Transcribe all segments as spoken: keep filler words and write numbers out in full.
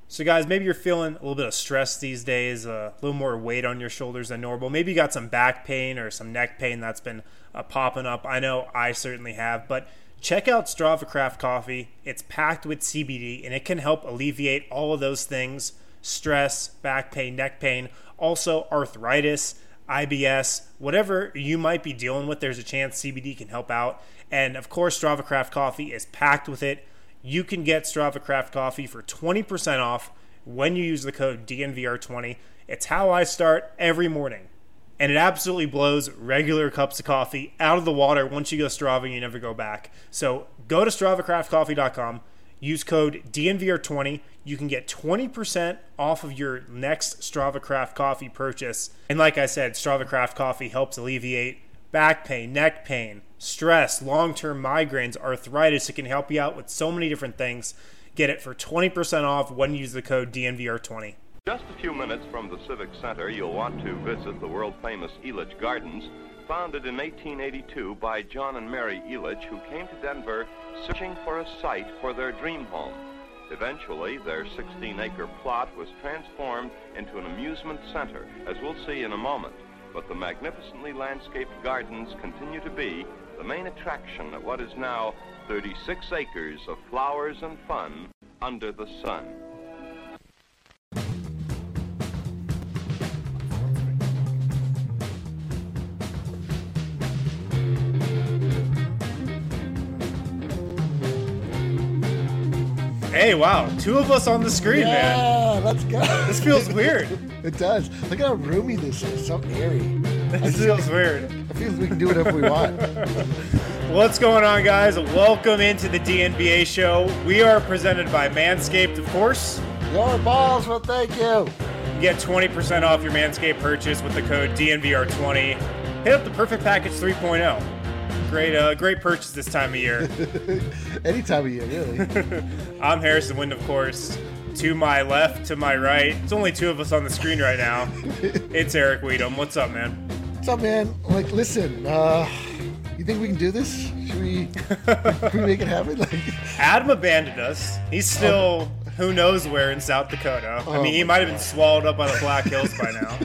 So guys, maybe you're feeling a little bit of stress these days, uh, a little more weight on your shoulders than normal. Maybe you got some back pain or some neck pain that's been uh, popping up. I know I certainly have, but check out Strava Craft Coffee. It's packed with C B D and it can help alleviate all of those things: stress, back pain, neck pain, also arthritis, I B S, whatever you might be dealing with, there's a chance C B D can help out. And of course, Strava Craft Coffee is packed with it. You can get Strava Craft Coffee for twenty percent off when you use the code D N V R twenty. It's how I start every morning. And it absolutely blows regular cups of coffee out of the water. Once you go Strava, you never go back. So go to strava craft coffee dot com. Use code D N V R twenty. You can get twenty percent off of your next Strava Craft Coffee purchase. And like I said, Strava Craft Coffee helps alleviate back pain, neck pain, stress, long-term migraines, arthritis. It can help you out with so many different things. Get it for twenty percent off when you use the code D N V R twenty. Just a few minutes from the Civic Center, you'll want to visit the world-famous Elitch Gardens, founded in eighteen eighty-two by John and Mary Elitch, who came to Denver searching for a site for their dream home. Eventually, their sixteen-acre plot was transformed into an amusement center, as we'll see in a moment. But the magnificently landscaped gardens continue to be the main attraction at what is now thirty-six acres of flowers and fun under the sun. Hey, wow, two of us on the screen, yeah, man. Yeah, let's go. This feels weird. It does. Look how roomy this is. So airy. This feels weird. I feel like we can do whatever we want. What's going on, guys? Welcome into the D N B A show. We are presented by Manscaped, of course. Your balls will thank you. Get twenty percent off your Manscaped purchase with the code D N V R twenty. Hit up the Perfect Package three point oh. Great, uh, great purchase this time of year. Any time of year, really. I'm Harrison Wind, of course. To my left, to my right. It's only two of us on the screen right now. It's Eric Weedham. What's up, man? What's up, man? Like, listen, uh, you think we can do this? Should we, should we make it happen? Like, Adam abandoned us. He's still who knows where in South Dakota. Oh I mean, he might have been swallowed up by the Black Hills by now.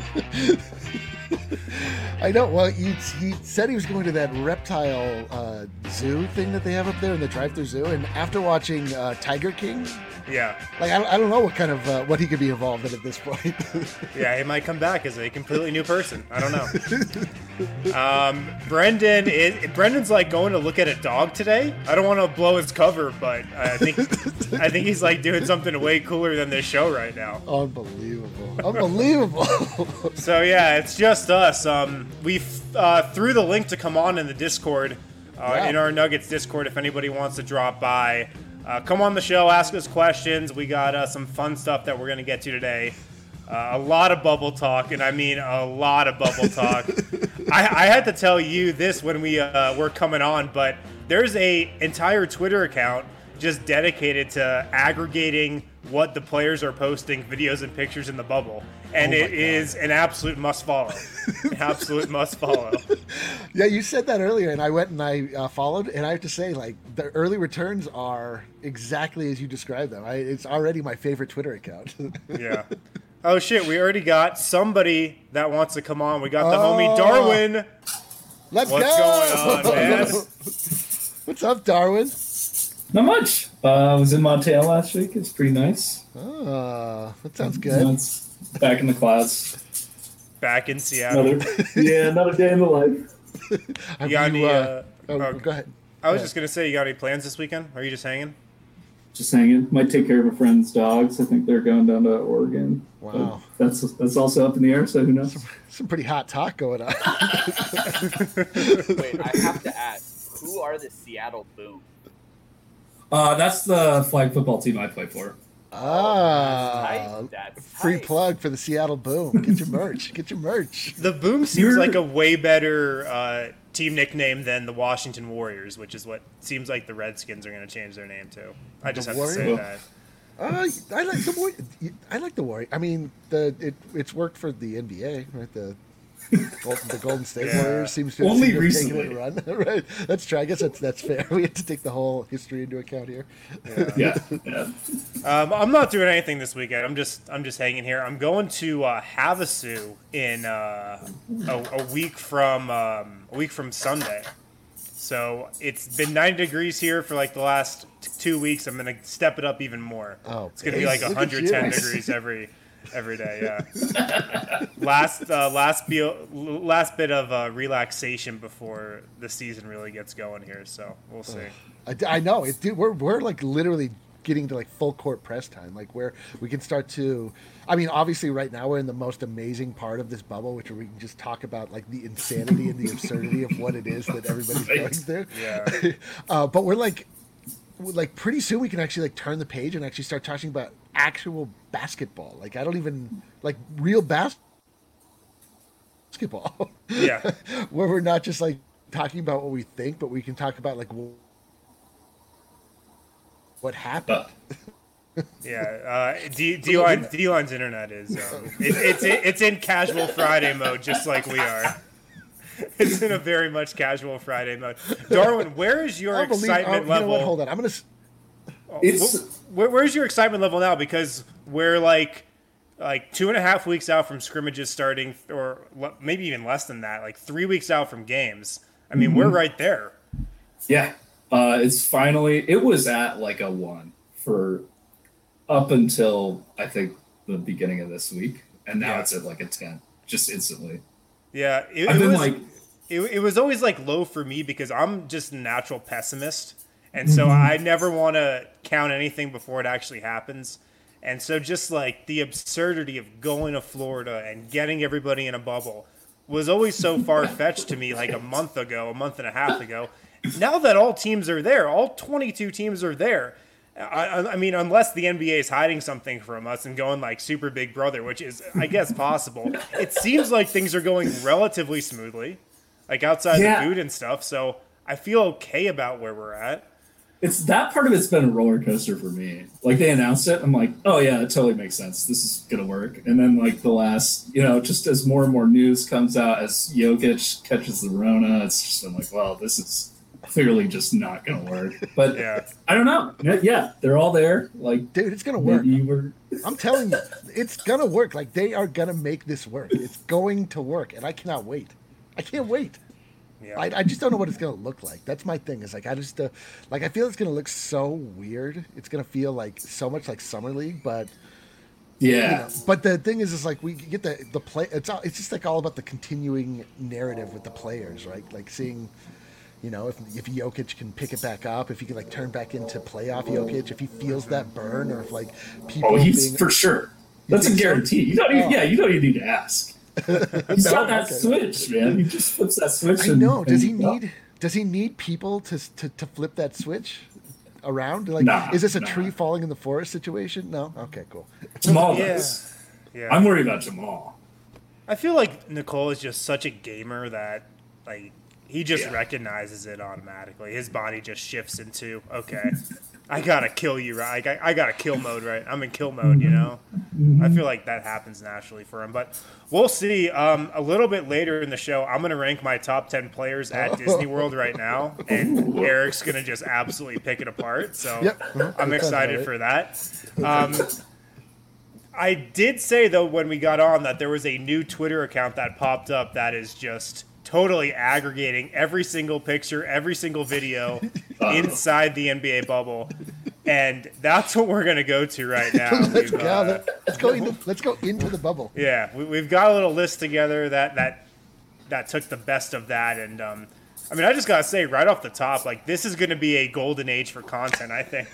I know. Well, he, he said he was going to that reptile uh, zoo thing that they have up there in the drive-through zoo, and after watching uh, Tiger King, Yeah. like I, I don't know what kind of uh, what he could be involved in at this point. Yeah, he might come back as a completely new person. I don't know. Um, Brendan is Brendan's like going to look at a dog today. I don't want to blow his cover, but I think I think he's like doing something way cooler than this show right now. Unbelievable! Unbelievable! So yeah, it's just us. Um, we uh, threw the link to come on in the Discord, uh, Yeah. in our Nuggets Discord. If anybody wants to drop by, uh, come on the show, ask us questions. We got uh, some fun stuff that we're gonna get to today. Uh, a lot of bubble talk, and I mean a lot of bubble talk. I, I had to tell you this when we uh, were coming on, but there's a entire Twitter account just dedicated to aggregating what the players are posting, videos and pictures in the bubble. And Oh my it is an absolute must follow. An absolute must follow. Yeah, you said that earlier, and I went and I uh, followed, and I have to say, like, the early returns are exactly as you described them. I, it's already my favorite Twitter account. Yeah. Oh shit, we already got somebody that wants to come on. We got the Oh. homie Darwin. Let's What's go! going on, man? What's up, Darwin? Not much. Uh, I was in Montana last week. It's pretty nice. Oh, that sounds You good. know, it's back in the clouds. Back in Seattle. Another, yeah, another day in the life. Have You got any, uh, oh, oh, go ahead. I was Yeah. just gonna say, you got any plans this weekend? Are you just hanging? Just hanging. Might take care of a friend's dogs. I think they're going down to Oregon. Wow. But that's that's also up in the air, so who knows? Some pretty hot talk going on. Wait, I have to ask, who are the Seattle Boom? Uh, that's the flag football team I play for. Ah, Tight. That's free tight. plug for the Seattle Boom. Get your merch. Get your merch. The Boom seems You're- like a way better uh, team nickname than the Washington Warriors, which is what seems like the Redskins are going to change their name to. I just The have to say Warriors? that. Uh, I like the Warrior. I like the Warrior. I mean, the it it's worked for the N B A, right? The Golden, the Golden State Yeah. Warriors seems to have, Only seem to have taken recently. it a run. Right? That's true. I guess that's that's fair. We have to take the whole history into account here. Yeah, yeah. Um, I'm not doing anything this weekend. I'm just I'm just hanging here. I'm going to uh, Havasu in uh, a, a week from um, a week from Sunday. So it's been ninety degrees here for like the last t- two weeks. I'm gonna step it up even more. Oh, it's gonna be like look at one hundred ten you. degrees every every day. Yeah. last uh, last be- last bit of uh, relaxation before the season really gets going here. So we'll see. I, I know it. Dude, we're we're like literally getting to like full court press time, like where we can start to. I mean, obviously, right now we're in the most amazing part of this bubble, which we can just talk about like the insanity and the absurdity of what it is that everybody's Right. going through. Yeah. uh, but we're like, we're, like pretty soon we can actually like turn the page and actually start talking about actual basketball. Like I don't even like real bas- basketball. Yeah. Where we're not just like talking about what we think, but we can talk about like wh- what happened. Uh, Yeah, uh, D- D-Line, D-Line's internet is um, it, it's it's in casual Friday mode, just like we are. It's in a very much casual Friday mode. Darwin, where is your I believe- excitement oh, you know level? what? Hold on, I'm gonna. s- it's Where, where's your excitement level now? Because we're like like two and a half weeks out from scrimmages starting, or le- maybe even less than that. Like three weeks out from games. I mean, we're right there. yeah. Uh, it's finally. It was at like a one for up until I think the beginning of this week, and now Yeah. it's at like a ten, just instantly. Yeah, it, I've it been was like, it, it was always like low for me because I'm just a natural pessimist, and so I never want to count anything before it actually happens. And so just like the absurdity of going to Florida and getting everybody in a bubble was always so far fetched to me like a month ago, a month and a half ago. Now that all teams are there, all twenty-two teams are there. I, I I mean, unless the N B A is hiding something from us and going like super big brother, which is, I guess, possible. It seems like things are going relatively smoothly, like outside Yeah. the food and stuff. So I feel okay about where we're at. it's that part of it's been a roller coaster for me. Like they announced it, I'm like, oh yeah, it totally makes sense. This is gonna work. And then like the last, you know, just as more and more news comes out, as Jokic catches the Rona, it's just been like, well, this is clearly just not gonna work. But Yeah. I don't know. Yeah, they're all there. Like, Dude, it's gonna work. maybe we're I'm telling you, it's gonna work. Like they are gonna make this work. It's going to work, and I cannot wait. I can't wait. Yeah. I, I just don't know what it's gonna look like. That's my thing. Is like I just uh, like I feel it's gonna look so weird. It's gonna feel like so much like summer league, but yeah. you know. But the thing is, is like we get the the play. It's all, it's just like all about the continuing narrative with the players, right? Like seeing. You know, if if Jokic can pick it back up, if he can like turn back into playoff Jokic, if he feels that burn, or if like people Oh, he's being for sure. That's a think so? guarantee. You don't even, Oh. yeah, you don't even need to ask. He's got that Okay. switch, man. He just flips that switch. I and- know. Does he and- well, need does he need people to to, to flip that switch around? Like, Nah, is this a nah. tree falling in the forest situation? No. Okay, cool. Jamal Yeah. does. Yeah. I'm worried about Jamal. I feel like Nicole is just such a gamer that like he just Yeah. recognizes it automatically. His body just shifts into, okay, I gotta kill you, right? I, I gotta kill mode, right? I'm in kill mode, you know? I feel like that happens naturally for him. But we'll see. Um, a little bit later in the show, I'm going to rank my top ten players at Disney World right now. And Eric's going to just absolutely pick it apart. So Yep. I'm That sounds excited right. for that. Um, I did say, though, when we got on that there was a new Twitter account that popped up that is just totally aggregating every single picture, every single video inside the N B A bubble. And that's what we're going to go to right now. let's We've, go. uh, Let's go into let's go into the bubble. yeah, we, we've got a little list together that that that took the best of that, and um, I mean, I just gotta say right off the top, like this is going to be a golden age for content, I think,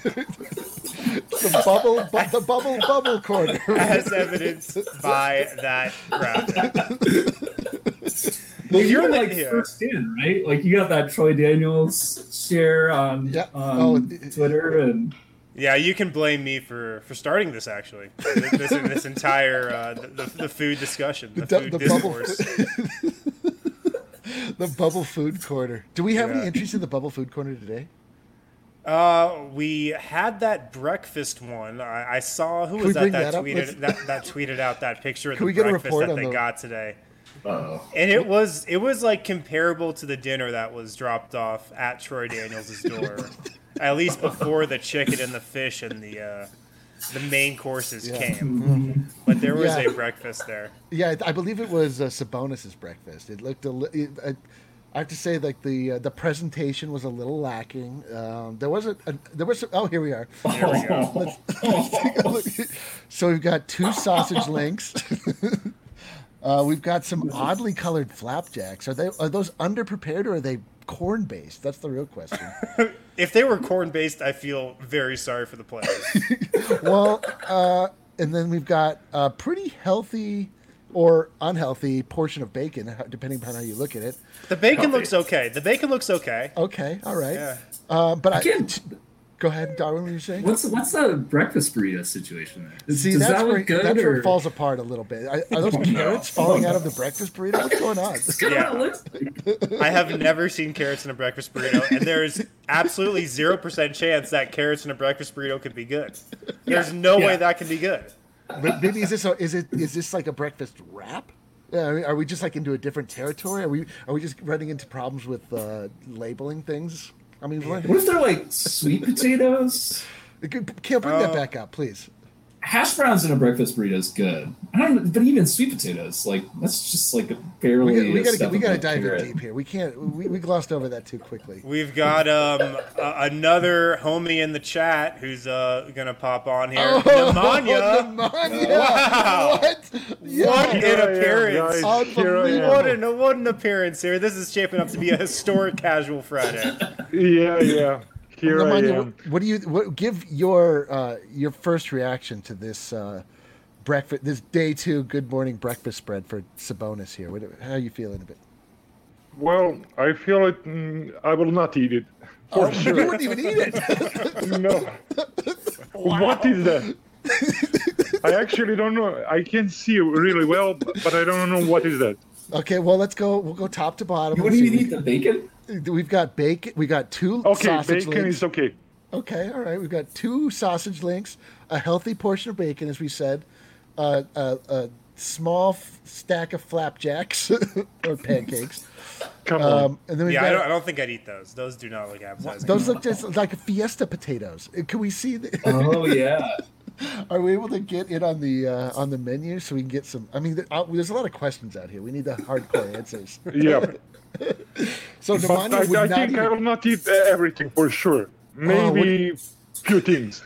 The bubble, bu- the bubble, bubble corner. as evidenced by that graphic. Well, You're you're the- like yeah. first in, right? Like you got that Troy Daniels share on, Yeah. on Oh, Twitter, and Yeah, you can blame me for, for starting this. Actually, this this, this entire uh, the, the the food discussion, the, The- food the bubble- discourse. The bubble food corner. Do we have Yeah. any entries in the bubble food corner today? Uh, we had that breakfast one. I, I saw who Can was we that bring that that up? tweeted Let's- that, that tweeted out that picture of Can the we get a breakfast report that on they the- got today. Uh-oh. And it was it was like comparable to the dinner that was dropped off at Troy Daniels' door, at least before the chicken and the fish and the uh, the main courses Yeah. came. But there was Yeah. a breakfast there. Yeah, I believe it was uh, Sabonis's breakfast. It looked a li- it, I, I have to say, like the uh, the presentation was a little lacking. Um, there wasn't. A, there was. Oh, here we are. There we go. So we've got two sausage links. uh, we've got some oddly colored flapjacks. Are they? Are those underprepared or are they corn based? That's the real question. If they were corn based, I feel very sorry for the players. Well, uh, and then we've got a pretty healthy or unhealthy portion of bacon, depending upon how you look at it. The bacon Healthy. looks okay. The bacon looks okay. Okay, all right. Yeah. Uh, but I, Again, go ahead, Darwin. What were you saying? what's what's the breakfast burrito situation there? Does, See, does that's that where, look good? that's where or... it falls apart a little bit. Are, are those Oh, no. carrots falling out of the breakfast burrito? What's going on? That's kinda Yeah. what it looks like. I have never seen carrots in a breakfast burrito, and there's absolutely zero percent chance that carrots in a breakfast burrito could be good. There's no Yeah. way that can be good. But maybe is this a, is it is this like a breakfast wrap? Yeah, I mean, are we just like into a different territory? Are we are we just running into problems with uh, labeling things? I mean, what, What if they're like sweet potatoes? Kale, bring that back up, please. Hash browns in a breakfast burrito is good. I don't, but even sweet potatoes, like that's just like a barely. We, got, we a gotta step we gotta above dive in carrot. deep here. We can't we, we glossed over that too quickly. We've got um, a- another homie in the chat who's uh, gonna pop on here. Oh, Nemanja. Nemanja! Wow. What? Yeah. What an Here I am, appearance! guys. Here I am. What an, what an appearance here. This is shaping up to be a historic casual Friday. Yeah, yeah. Here I Nemanja, am. what, what do you what, give your uh, your first reaction to this uh, breakfast this day two good morning breakfast spread for Sabonis here? What, how are you feeling a bit? Well, I feel it. Mm, I will not eat it. For Oh, sure. you wouldn't even eat it. No. What is that? I actually don't know. I can see really well, but I don't know what is that. Okay, well let's go. We'll go top to bottom. You Let's wouldn't see. even eat the bacon? We've got bacon. We got two Okay, sausage bacon links. is okay. Okay, all right. We've got two sausage links, a healthy portion of bacon, as we said, uh, a, a small f- stack of flapjacks or pancakes, Come on. um, and then we've Yeah, I don't, I got don't think I'd eat those. Those do not look appetizing. those look just like Fiesta potatoes. Uh, Can we see? The, Oh yeah. are we able to get it on the uh, on the menu so we can get some? I mean, there, uh, there's a lot of questions out here. We need the hardcore answers. Yeah. So But Nemanja I, would I not think even. I will not eat uh, everything for sure. Maybe few things.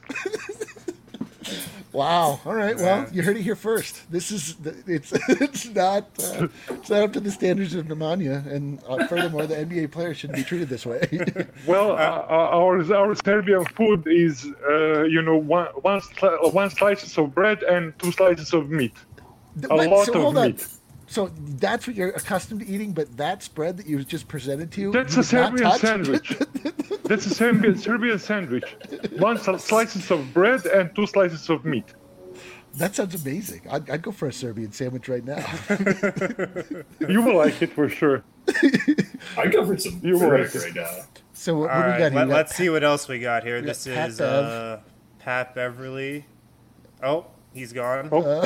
Wow. All right. Well, you heard it here first. This is it's it's not uh, it's not up to the standards of Nemanja, and uh, furthermore, the N B A players shouldn't be treated this way. Well, uh, our our Serbian food is, uh, you know, one one, sli- one slices of bread and two slices of meat. A Wait, lot so of hold on. meat. So that's what you're accustomed to eating, but that spread that you just presented to you, That's you a did not Serbian touch? sandwich. That's a Serbian Serbian sandwich. One sli- slices of bread and two slices of meat. That sounds amazing. I'd, I'd go for a Serbian sandwich right now. You will like it for sure. I'd go for some You were frick right. right now. So what, All what do we right, got here? let, We got let's see what else we got here. got This Pat is Bev. uh, Pat Beverly. Oh, he's gone. Oh,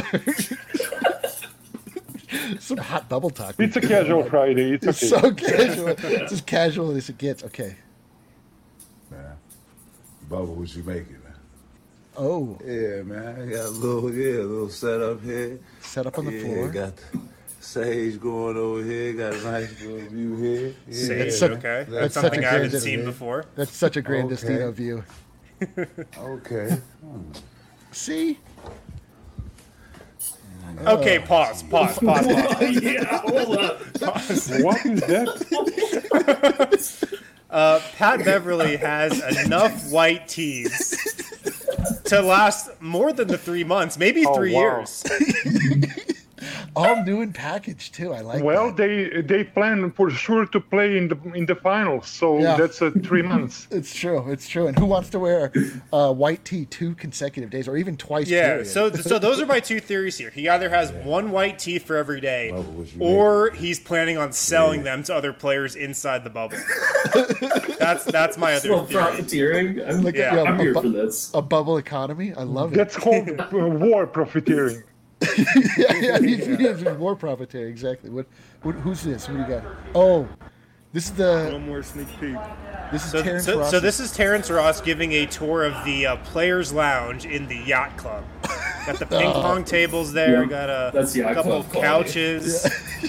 some hot bubble talk. it's a casual Friday. It's It's okay. so casual. It's as casual as it gets. Okay. Man, Bubba, what you making, man? Oh, Yeah, man, I got a little, yeah, a little setup here. set up on the yeah, floor. got sage going over here. Got a nice little view here. Yeah, Sage, such- okay. that's That's such something a I haven't great seen idea. before. That's such a grand Okay. Destino view. Okay. See? Okay, pause, pause, pause, pause. yeah, hold up. What is that? Uh, Pat Beverly has enough white teas to last more than the three months, maybe Oh, three wow. years. All new and packaged too. I like Well, that. they they plan for sure to play in the in the finals, so Yeah. that's uh, three months. It's true. It's true. And who wants to wear uh, white tee two consecutive days or even twice? Yeah, period? so so those are my two theories here. He either has one white tee for every day, Bubba, what you or he's planning on selling them to other players inside the bubble. That's that's my other Well, theory. profiteering. I'm, Yeah. Yeah, I'm a here bu- for this. a bubble economy. I love it. That's called uh, war profiteering. yeah, yeah, he, he is more profiteering. Exactly. What, what? Who's this? What do you got? Oh, this is the. One more sneak peek. This is So, Terrence so, Ross. so this is Terrence Ross giving a tour of the uh, Players Lounge in the Yacht Club. Got the ping pong tables there. Yeah, got a that's Yacht couple Club of quality. couches.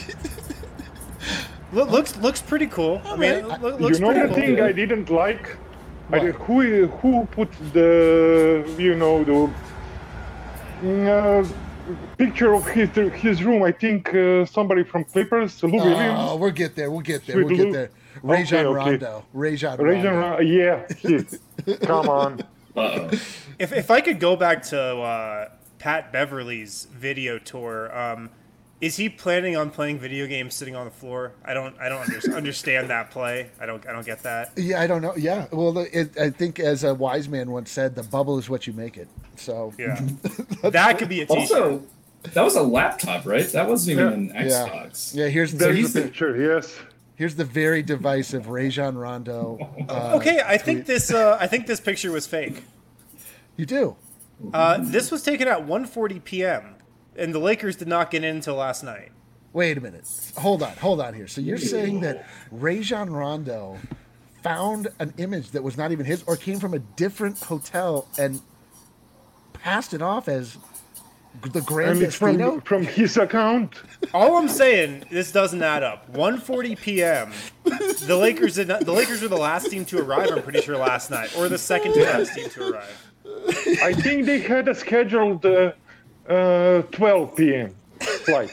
Lo- looks looks pretty cool. I mean, it lo- looks You know pretty the cool. thing I didn't like? I did, who who put the you know the mm, uh, picture of his his room? I think uh, somebody from Clippers, Lou Oh, Williams. we'll get there. We'll get there. Sweet We'll get Lou. there. Rajon Okay, okay. Rondo. Rajon Rajon Rondo. Rondo, yeah, he, come on. Uh-oh. If if I could go back to uh, Pat Beverly's video tour, um, is he planning on playing video games sitting on the floor? I don't I don't under, understand that play. I don't I don't get that. Yeah, I don't know. Yeah, well, it, I think as a wise man once said, the bubble is what you make it. So Yeah, that could be a t-shirt. Also, that was a laptop, right? That wasn't even an yeah, Xbox. yeah. Here's the There's here's the the, picture, yes. here's the very divisive Rajon Rondo. Uh, Okay, I think this uh, I think this picture was fake. You do. Uh, this was taken at one forty p.m. and the Lakers did not get in until last night. Wait a minute. Hold on. Hold on here. So you're saying that Rajon Rondo found an image that was not even his, or came from a different hotel and passed it off as the Grand And it's from Destino? from his account. All I'm saying, this doesn't add up. one forty p.m. The Lakers did not. The Lakers were the last team to arrive. I'm pretty sure last night, or the second to last team to arrive. I think they had a scheduled uh, uh, twelve p.m. flight.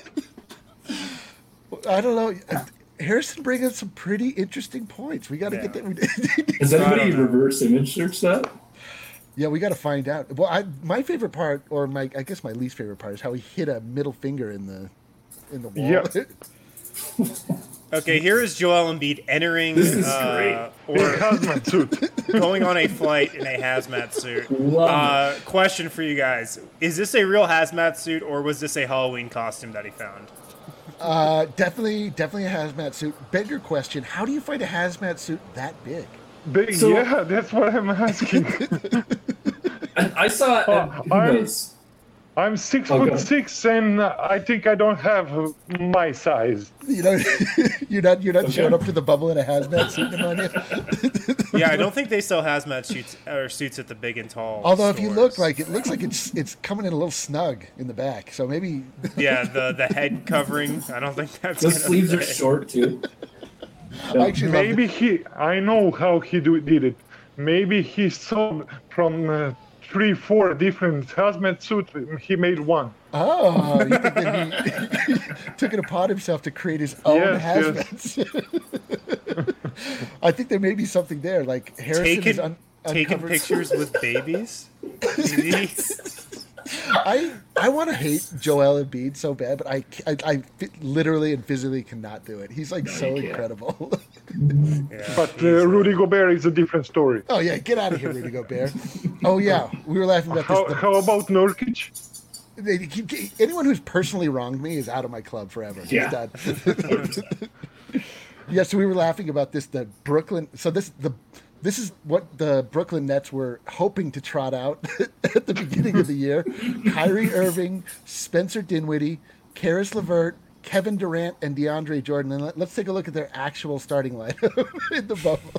I don't know. Harrison brings up some pretty interesting points. We got to Yeah. get that. Has I anybody don't know. reverse image searched that? Yeah, we got to find out. Well, I, my favorite part, or my I guess my least favorite part, is how he hit a middle finger in the in the wall. Yeah. Okay, here is Joel Embiid entering This is uh, great. or Hazmat suit. going on a flight in a hazmat suit. Love Uh, question for you guys: is this a real hazmat suit, or was this a Halloween costume that he found? Uh, definitely, definitely a hazmat suit. Bigger question: how do you find a hazmat suit that big? Big, So- yeah, that's what I'm asking. I, I saw it. Oh, at- who I'm- knows? I'm six Okay. foot six, and I think I don't have uh, my size. You know, you're not you're not Okay. showing up to the bubble in a hazmat suit pneumonia. Yeah, I don't think they sell hazmat suits or suits at the big and tall. Although if you look, stores. like it looks like it's it's coming in a little snug in the back. So maybe yeah, the the head covering. I don't think that's. The gonna sleeves are fit. short too. I actually love Maybe he, I know how he do, did it. Maybe he saw from uh, three, four different hazmat suits, he made one. Oh, you think that he took it upon himself to create his own Yes, hazmat suit? I think there may be something there. Like Harrison is Taking un- taking uncovered- pictures with babies. He- I I want to hate Joel Embiid so bad, but I, I, I fi- literally and physically cannot do it. He's like so you can't. incredible. yeah, But he's, uh, uh, Rudy Gobert is a different story. Oh yeah, get out of here, Rudy Gobert. Oh yeah, we were laughing about How, this. how about Nurkic? They keep, anyone who's personally wronged me is out of my club forever. It's Yeah. done. Yeah, so we were laughing about this. The Brooklyn. So this the this is what the Brooklyn Nets were hoping to trot out at the beginning of the year. Kyrie Irving, Spencer Dinwiddie, Karis LeVert, Kevin Durant, and DeAndre Jordan. And let, let's take a look at their actual starting lineup in the bubble.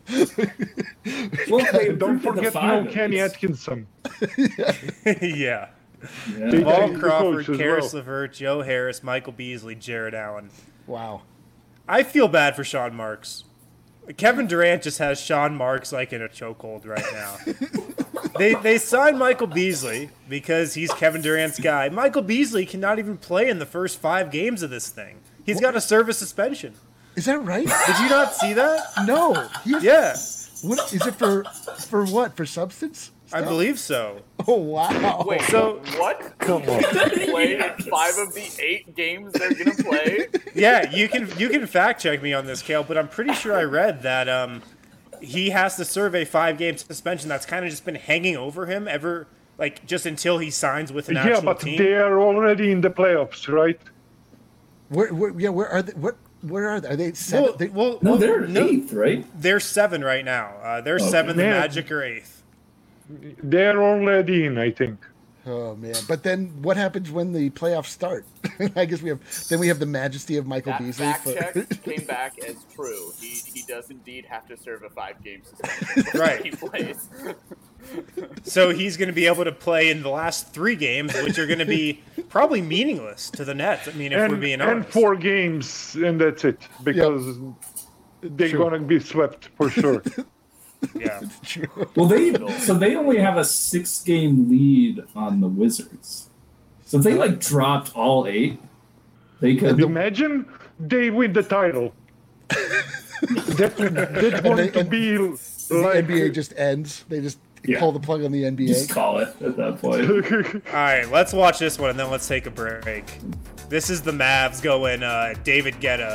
Well, they Don't improved to the forget five, no at Kenny least. Atkinson. yeah. Yeah. They- Paul the Crawford, coach as Karis well. LeVert, Joe Harris, Michael Beasley, Jared Allen. Wow. I feel bad for Sean Marks. Kevin Durant just has Sean Marks like in a chokehold right now. they they signed Michael Beasley because he's Kevin Durant's guy. Michael Beasley cannot even play in the first five games of this thing. He's got a service suspension. Is that right? Did you not see that? No. He has, Yeah, What is it for? For what? For substance? I stuff? believe so. Oh wow. Wait, So- what? Come on. Play in five of the eight games they're gonna play? Yeah, you can you can fact check me on this, Kale, but I'm pretty sure I read that um, he has to serve a five game suspension that's kind of just been hanging over him ever, like just until he signs with an Yeah, actual but team. they are already in the playoffs, right? Where, where? Yeah. Where are they? What? Where are they? Are they seven? Well, they, well, No, well, they're no, eighth, right? they're seven right now. Uh, they're Okay. seven. The Yeah. Magic are eighth. They are already in, I think. Oh man! But then what happens when the playoffs start? I guess we have then we have the majesty of Michael That Beasley. fact for- check came back as true. He he does indeed have to serve a five game suspension before Right. he plays. So he's going to be able to play in the last three games, which are going to be probably meaningless to the Nets. I mean, if and, we're being and honest. four games, and that's it, because they're True. gonna be swept for sure. Yeah. Well, they so they only have a six game lead on the Wizards. So if they like dropped all eight, they could. Imagine they win the title. that that's going they- to and- be the like N B A just ends. They just Yeah. pull the plug on the N B A. Just call it at that point. All right, let's watch this one and then let's take a break. This is the Mavs going uh, David Guetta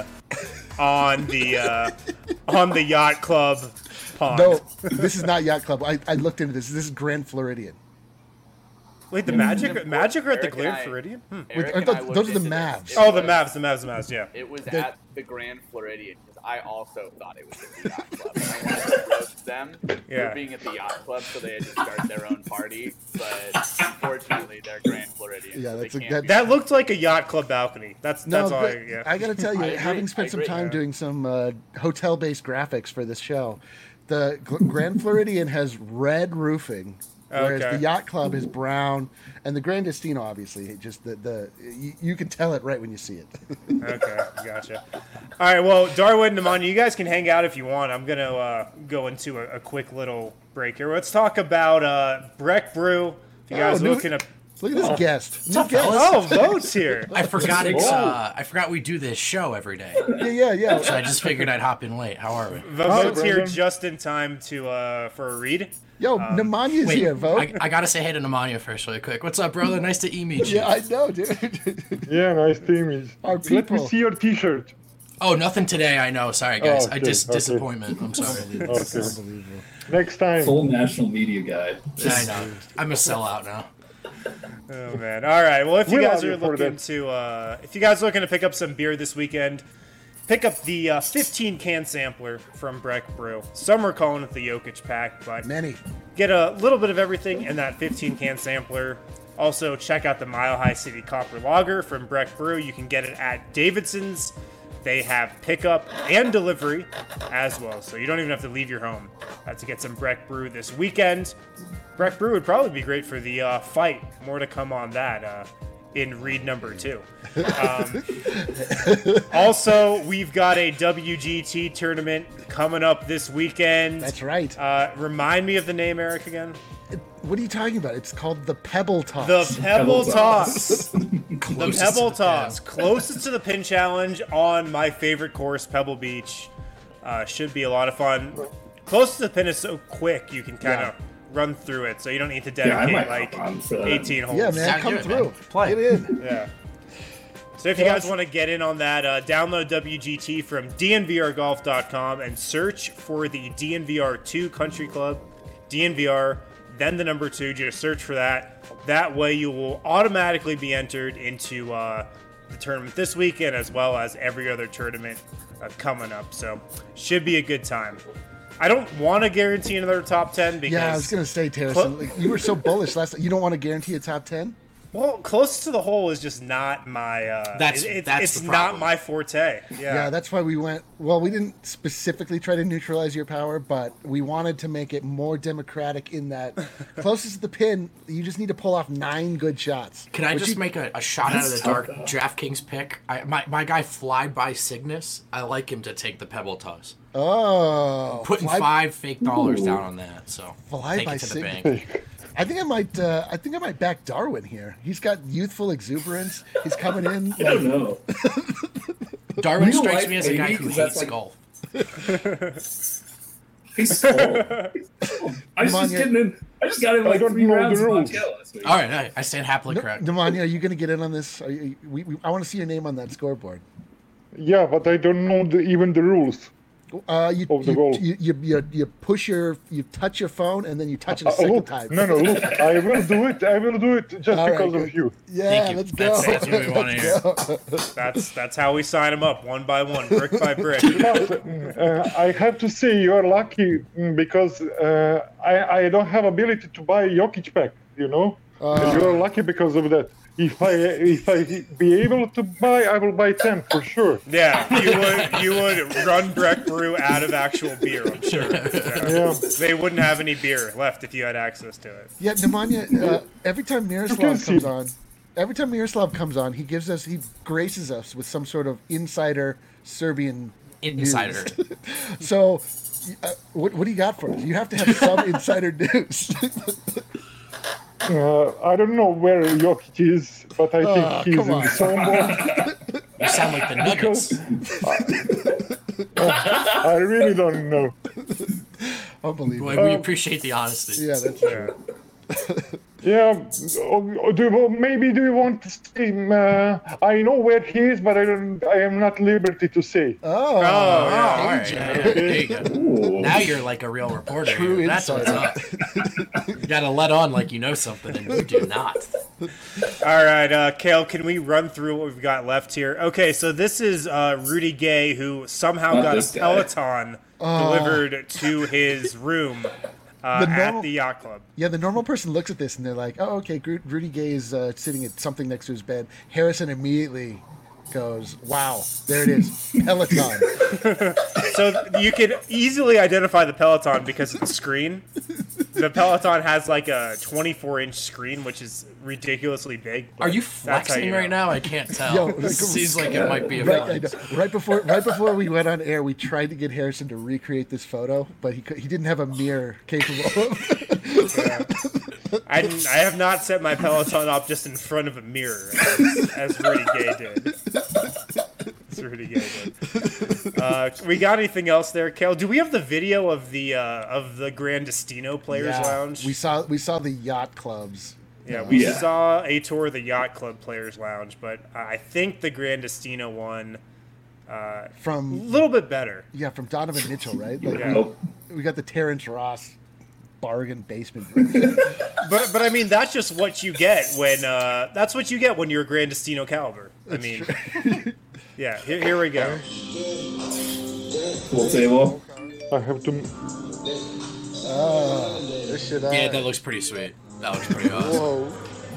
on the uh, on the yacht club pond. No, this is not Yacht Club. I, I looked into this. This is Grand Floridian. Wait, the Magic Magic are at the Eric and Grand I- Floridian? Hmm. Eric I and thought I those looked are the into this. Mavs. It Oh, the was- Mavs, the Mavs, the Mavs, yeah. It was The- at the Grand Floridian because I also thought it was at the yacht club. And I wanted to roast them Yeah. for being at the yacht club, so they had to start their own party. But unfortunately, they're Grand Floridian. Yeah, so that's they a- can't that- be- That looked like a yacht club balcony. That's No, that's all. I, but yeah. I got to tell you, I agree, having spent I some agree. time Yeah. doing some uh, hotel-based graphics for this show, the Gl- Grand Floridian has red roofing, whereas Okay. the Yacht Club is brown, and the Grand Destino, obviously, it just the, the you, you can tell it right when you see it. Okay, gotcha. All right, well, Darwin and Nemanja, you guys can hang out if you want. I'm going to uh, go into a, a quick little break here. Let's talk about uh, Breck Brew. If you guys Oh, are new- looking at... Look at this guest. New up, guest. fellas? Oh, votes here. I forgot it's. Whoa. Uh, I forgot we do this show every day, Yeah, yeah, yeah. so I just figured I'd hop in late. How are we? The votes here Brendan. just in time to uh, for a read. Yo, Nemanya's Wait, here, vote. I, I gotta say hey to Nemanja first, really quick. What's up, brother? Nice to e-meet you. Yeah, I know, dude. yeah, nice team. Our Let me people. see your T-shirt. Oh, nothing today. I know. Sorry, guys. Oh, I okay, dis- okay. disappointment. I'm sorry. Okay. Unbelievable. Next time. Full national media guy. I know. I'm a sellout now. Oh man! All right. Well, if you We guys love you are for looking that. to, uh, if you guys are looking to pick up some beer this weekend, pick up the uh, fifteen can sampler from Breck Brew. Some are calling it the Jokic pack, but Many. get a little bit of everything in that fifteen can sampler. Also, check out the Mile High City Copper Lager from Breck Brew. You can get it at Davidson's. They have pickup and delivery as well, so you don't even have to leave your home uh, to get some Breck Brew this weekend. Breck Brew would probably be great for the uh, fight. More to come on that uh, in read number two. Um, also, we've got a W G T tournament coming up this weekend. That's right. Uh, remind me of the name, Eric, again. What are you talking about? It's called the Pebble Toss. The Pebble Pebble Toss. The Closest Pebble to the Toss. pin. Closest to the pin challenge on my favorite course, Pebble Beach. Uh, should be a lot of fun. Close to the pin is so quick, you can kind of run through it, so you don't need to Yeah, I dedicate might like hop on for that. eighteen holes. yeah, man, Sound come good, through. man. Play. Get in. Yeah. So if you guys want to get in on that, uh, download W G T from D N V R golf dot com and search for the D N V R two Country Club, D N V R, then the number two. Just search for that. That way you will automatically be entered into uh, the tournament this weekend as well as every other tournament uh, coming up. So should be a good time. I don't want to guarantee another top ten because Yeah, I was gonna say, Terrence, like, you were so bullish last time. You don't want to guarantee a top ten? well, close to the hole is just not my. Uh, That's- it- it's, that's it's the not problem. my forte. Yeah. Yeah, that's why we went. Well, we didn't specifically try to neutralize your power, but we wanted to make it more democratic in that closest to the pin, you just need to pull off nine good shots. Can I Which just you- make a, a shot out of the That's tough, dark though. DraftKings pick? I, my, my guy Fly by Cygnus, I like him to take the Pebble Toss. Oh, Putting fly, five fake dollars down on that, so Fly take by it to the Cygnus. bank. I think I might. Uh, I think I might back Darwin here. He's got youthful exuberance. He's coming in. I don't know. Darwin Real strikes life, me as a guy maybe, who 'cause that's hates like- golf. He's cold. He's cold. I was Come on, just yeah. getting in. I just got in like don't three know the rounds of rules. Montana last week. All right, I, I stand happily correct. Nemanja, are you going to get in on this? Are you, we, we, I want to see your name on that scoreboard. Yeah, but I don't know the, even the rules. Uh, you, Of the you, goal. you, you, you, you push your, you touch your phone, and then you touch it a Uh, second look, time. no, no, look, I will do it. I will do it just All right, because good. of you. Yeah, Thank you. let's That's- go. that's what we wanna Let's hear. go. That's that's how we sign them up, one by one, brick by brick. But uh, I have to say you are lucky mm, because uh, I, I don't have ability to buy Jokic pack, you know? And you're lucky because of that. If I if I be able to buy, I will buy ten for sure. Yeah, you would you would run Breck Brew out of actual beer, I'm sure. Yeah. Yeah. They wouldn't have any beer left if you had access to it. Yeah, Nemanja, uh, every time Miroslav can see. comes on, every time Miroslav comes on, he gives us, he graces us with some sort of insider Serbian Insider. news. So, uh, what, what do you got for us? You have to have some insider news. Uh, I don't know where Jokic is, but I think Oh, he's come in on. Sombor. You sound like the Nuggets. I really don't know. Unbelievable. Boy, we appreciate the honesty. Yeah, that's true. Yeah, or do you, maybe do you want to see him? Uh, I know where he is, but I don't. I am not liberty to say. Oh, Oh, yeah, all right. Yeah, yeah, there you go. Ooh. Now you're like a real reporter. True here. That's what's up. You gotta let on like you know something, and you do not. All right, uh, Kale, can we run through what we've got left here? Okay, so this is uh, Rudy Gay, who somehow Not got this a guy. Peloton delivered to his room uh, The at normal- the yacht club. Yeah, the normal person looks at this and they're like, "Oh, okay, Gru- Rudy Gay is uh, sitting at something next to his bed." Harrison immediately goes, "Wow, there it is, Peloton." So you can easily identify the Peloton because of the screen. The Peloton has like a twenty-four inch screen, which is ridiculously big. Are you That's how flexing you know. right now? I can't tell. Yo, It like, seems like it might be a Right, I flex. know. right before, right before we went on air, we tried to get Harrison to recreate this photo, but he could, he didn't have a mirror capable of. I, didn't- I have not set my Peloton up just in front of a mirror, as, as Rudy Gay did. As Rudy Gay did. Uh, we got anything else there, Kale? Do we have the video of the uh, of the Grandestino Players Yeah, Lounge? We saw we saw the yacht clubs. Yeah, we Yeah. saw a tour of the Yacht Club Players Lounge, but I think the Grandestino one uh, a From little bit better. yeah, from Donovan Mitchell, right? Like Yeah. Nope. we, we got the Terrence Ross bargain basement version. But but I mean that's just what you get when uh, that's what you get when you're a Grandestino caliber. I mean, yeah. Here, here we go. Pool table. I have to. Oh, this shit. Yeah, that looks pretty sweet. That looks pretty awesome. Whoa.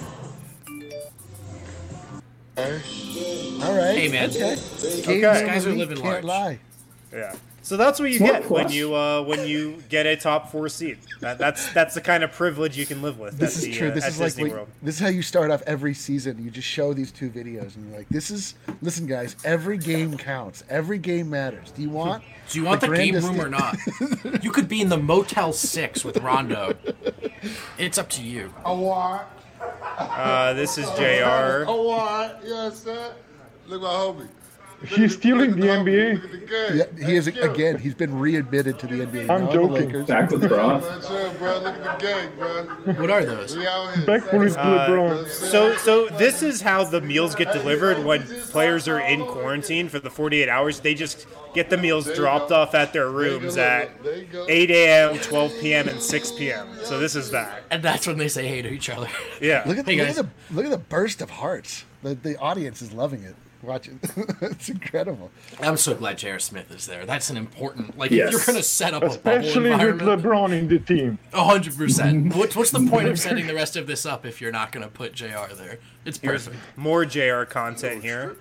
All right. Hey, man. Okay. Okay. Games Guys over are me, living can't large. lie. Yeah. So that's what you Smart get when plus. you uh, when you get a top four seed. That, that's that's the kind of privilege you can live with. This at is the, true. Uh, This at is like Disney what- World. this is how you start off every season. You just show these two videos, and you're like, "This is listen, guys. Every game counts. Every game matters. Do you want? Do you want the, game grandest- room or not? You could be in the Motel Six with Rondo. It's up to you. I want. Uh, this is J R. I want. Yes, sir. Look at my homie. He's still in the N B A. Look at the game. Yeah, he is again. He's been readmitted to the N B A. I'm now on the joking. Lakers. Back with Bron. That's it, bro. Look at the game, bro. What are those? We out here. Backpool is LeBron. So so this is how the meals get delivered when players are in quarantine for the forty-eight hours. They just get the meals dropped off at their rooms at eight a.m., twelve p.m., and six p.m. So this is that. And that's when they say hey to each other. Yeah. Look at, Hey, look guys. at the look at the burst of hearts. The the audience is loving it. Watching, it's incredible. I'm so glad J R. Smith is there. That's an important. Like, Yes. if you're gonna set up a bubble Especially with environment, LeBron in the team. a hundred percent. What's what's the point of setting the rest of this up if you're not gonna put J R there? It's perfect. More J R content here.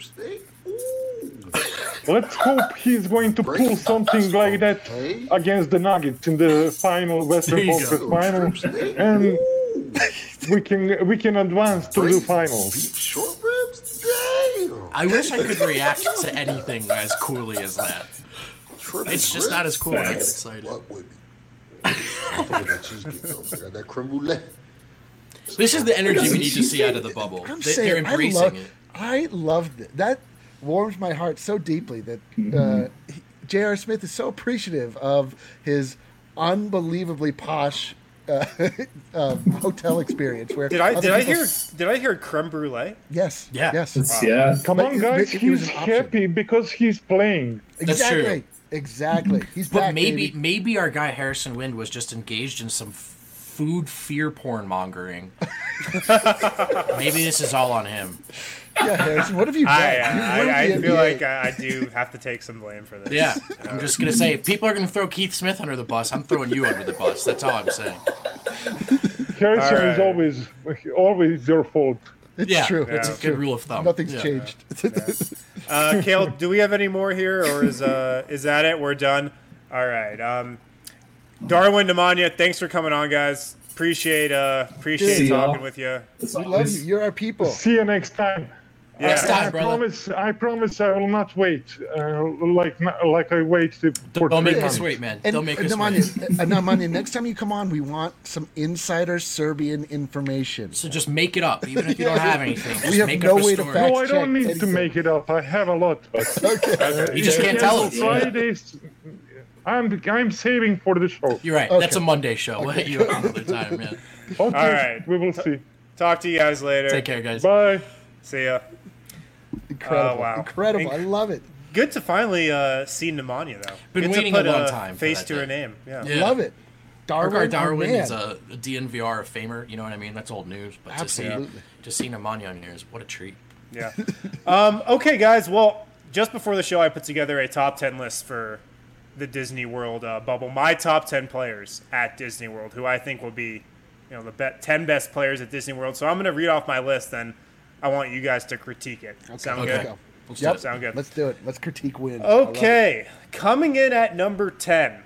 Let's hope he's going to pull something like that against the Nuggets in the final Western There you Conference go. final, and we can we can advance to the finals. Short ribs? Damn. I wish I could react to anything as coolly as that. It's just not as cool when I get excited. What would be? I got cheesecake though. I got that creme brulee. This is the energy we need to see out of the bubble. I'm They, saying, they're I embracing love, it. I love it. That warms my heart so deeply that Mm-hmm. uh, he- J R. Smith is so appreciative of his unbelievably posh uh, um, hotel experience. Where Did I other did I people- hear did I hear creme brulee? Yes. Yeah. Yes. It's, yeah. Come But on, it- guys, it was he's an option. happy because he's playing. That's true. Exactly. Exactly. He's But back, maybe baby. maybe our guy Harrison Wind was just engaged in some f- food fear porn mongering. Maybe this is all on him. Yeah, Harrison. What have you done? I, You uh, ruined I, I the N B A. feel like I, I do have to take some blame for this. Yeah, I'm just gonna say if people are gonna throw Keith Smith under the bus, I'm throwing you under the bus. That's all I'm saying. Harrison All is right. always always your fault. It's Yeah, true. that's It's a good true. rule of thumb. Nothing's Yeah. changed. Uh, Kale, do we have any more here, or is uh is that it? We're done. All right. Um, Darwin, Nemanja, thanks for coming on, guys. Appreciate uh appreciate See y'all. talking with you. It's We love always- you. You're our people. See you next time. Yeah. Next time, I brother. promise. I promise. I will not wait. Uh, like like I wait to, for Don't make three us months. wait, man. And, Don't make and us Nemanja, wait. uh, Nemanja, next time you come on, we want some insider Serbian information. So just make it up, even if you don't have anything. Just We have make no up a way to story. fact- No, I don't check need to anything. make it up. I have a lot. But uh, You just can't tell us. Fridays. I'm I'm saving for the show. You're right. Okay. That's a Monday show. We'll hit you up another time, man. Okay, All right. we will see. Talk to you guys later. Take care, guys. Bye. See ya. Incredible. Oh, wow. Incredible. Inc- I love it. Good to finally uh, see Nemanja, though. Been Good waiting to put a long time for face that to day. her name. Yeah. Yeah. Love it. Darwin, Darwin, Darwin our is man. a, a D N V R famer. You know what I mean? That's old news. But to see Absolutely. to see Nemanja on here is what a treat. Yeah. um, okay, guys. Well, just before the show, I put together a top ten list for the Disney World uh, bubble. My top ten players at Disney World, who I think will be, you know, the be- ten best players at Disney World. So I'm going to read off my list, and I want you guys to critique it. Sound Okay. good? Let's go. Let's Yep. do it. Sound good. Let's do it. Let's critique win. I love it. Okay, coming in at number ten,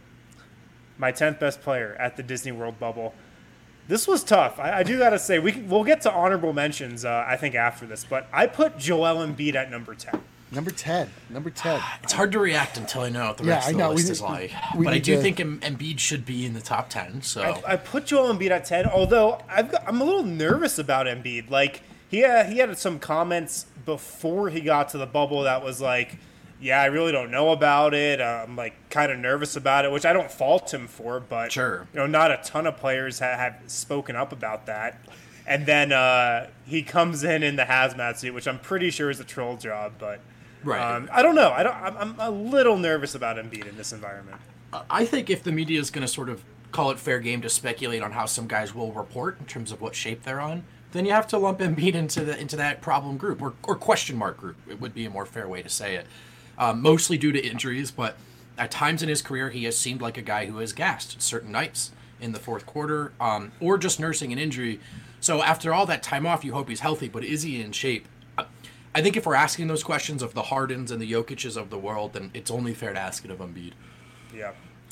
my tenth best player at the Disney World bubble. This was tough. I, I do gotta say, we can, we'll get to honorable mentions. Uh, I think after this, but I put Joel Embiid at number ten. Number ten. Number ten. It's hard to react until I know what the Yeah, rest I of know. the We list need- is like. we But I need do to- think Em- Embiid should be in the top ten. So I, I put Joel Embiid at ten, although I've got, I'm a little nervous about Embiid. Like he had, he had some comments before he got to the bubble that was like, yeah, I really don't know about it. Uh, I'm like kind of nervous about it, which I don't fault him for. But Sure. you know, not a ton of players ha- have spoken up about that. And then uh, he comes in in the hazmat suit, which I'm pretty sure is a troll job, but. Right. Um, I don't know. I don't. I'm, I'm a little nervous about Embiid in this environment. I think if the media is going to sort of call it fair game to speculate on how some guys will report in terms of what shape they're on, then you have to lump Embiid into the into that problem group or, or question mark group. It would be a more fair way to say it. Um, mostly due to injuries, but at times in his career he has seemed like a guy who has gassed certain nights in the fourth quarter, um, or just nursing an injury. So after all that time off, you hope he's healthy, but is he in shape? I think if we're asking those questions of the Hardens and the Jokic's of the world, then it's only fair to ask it of Embiid. Yeah.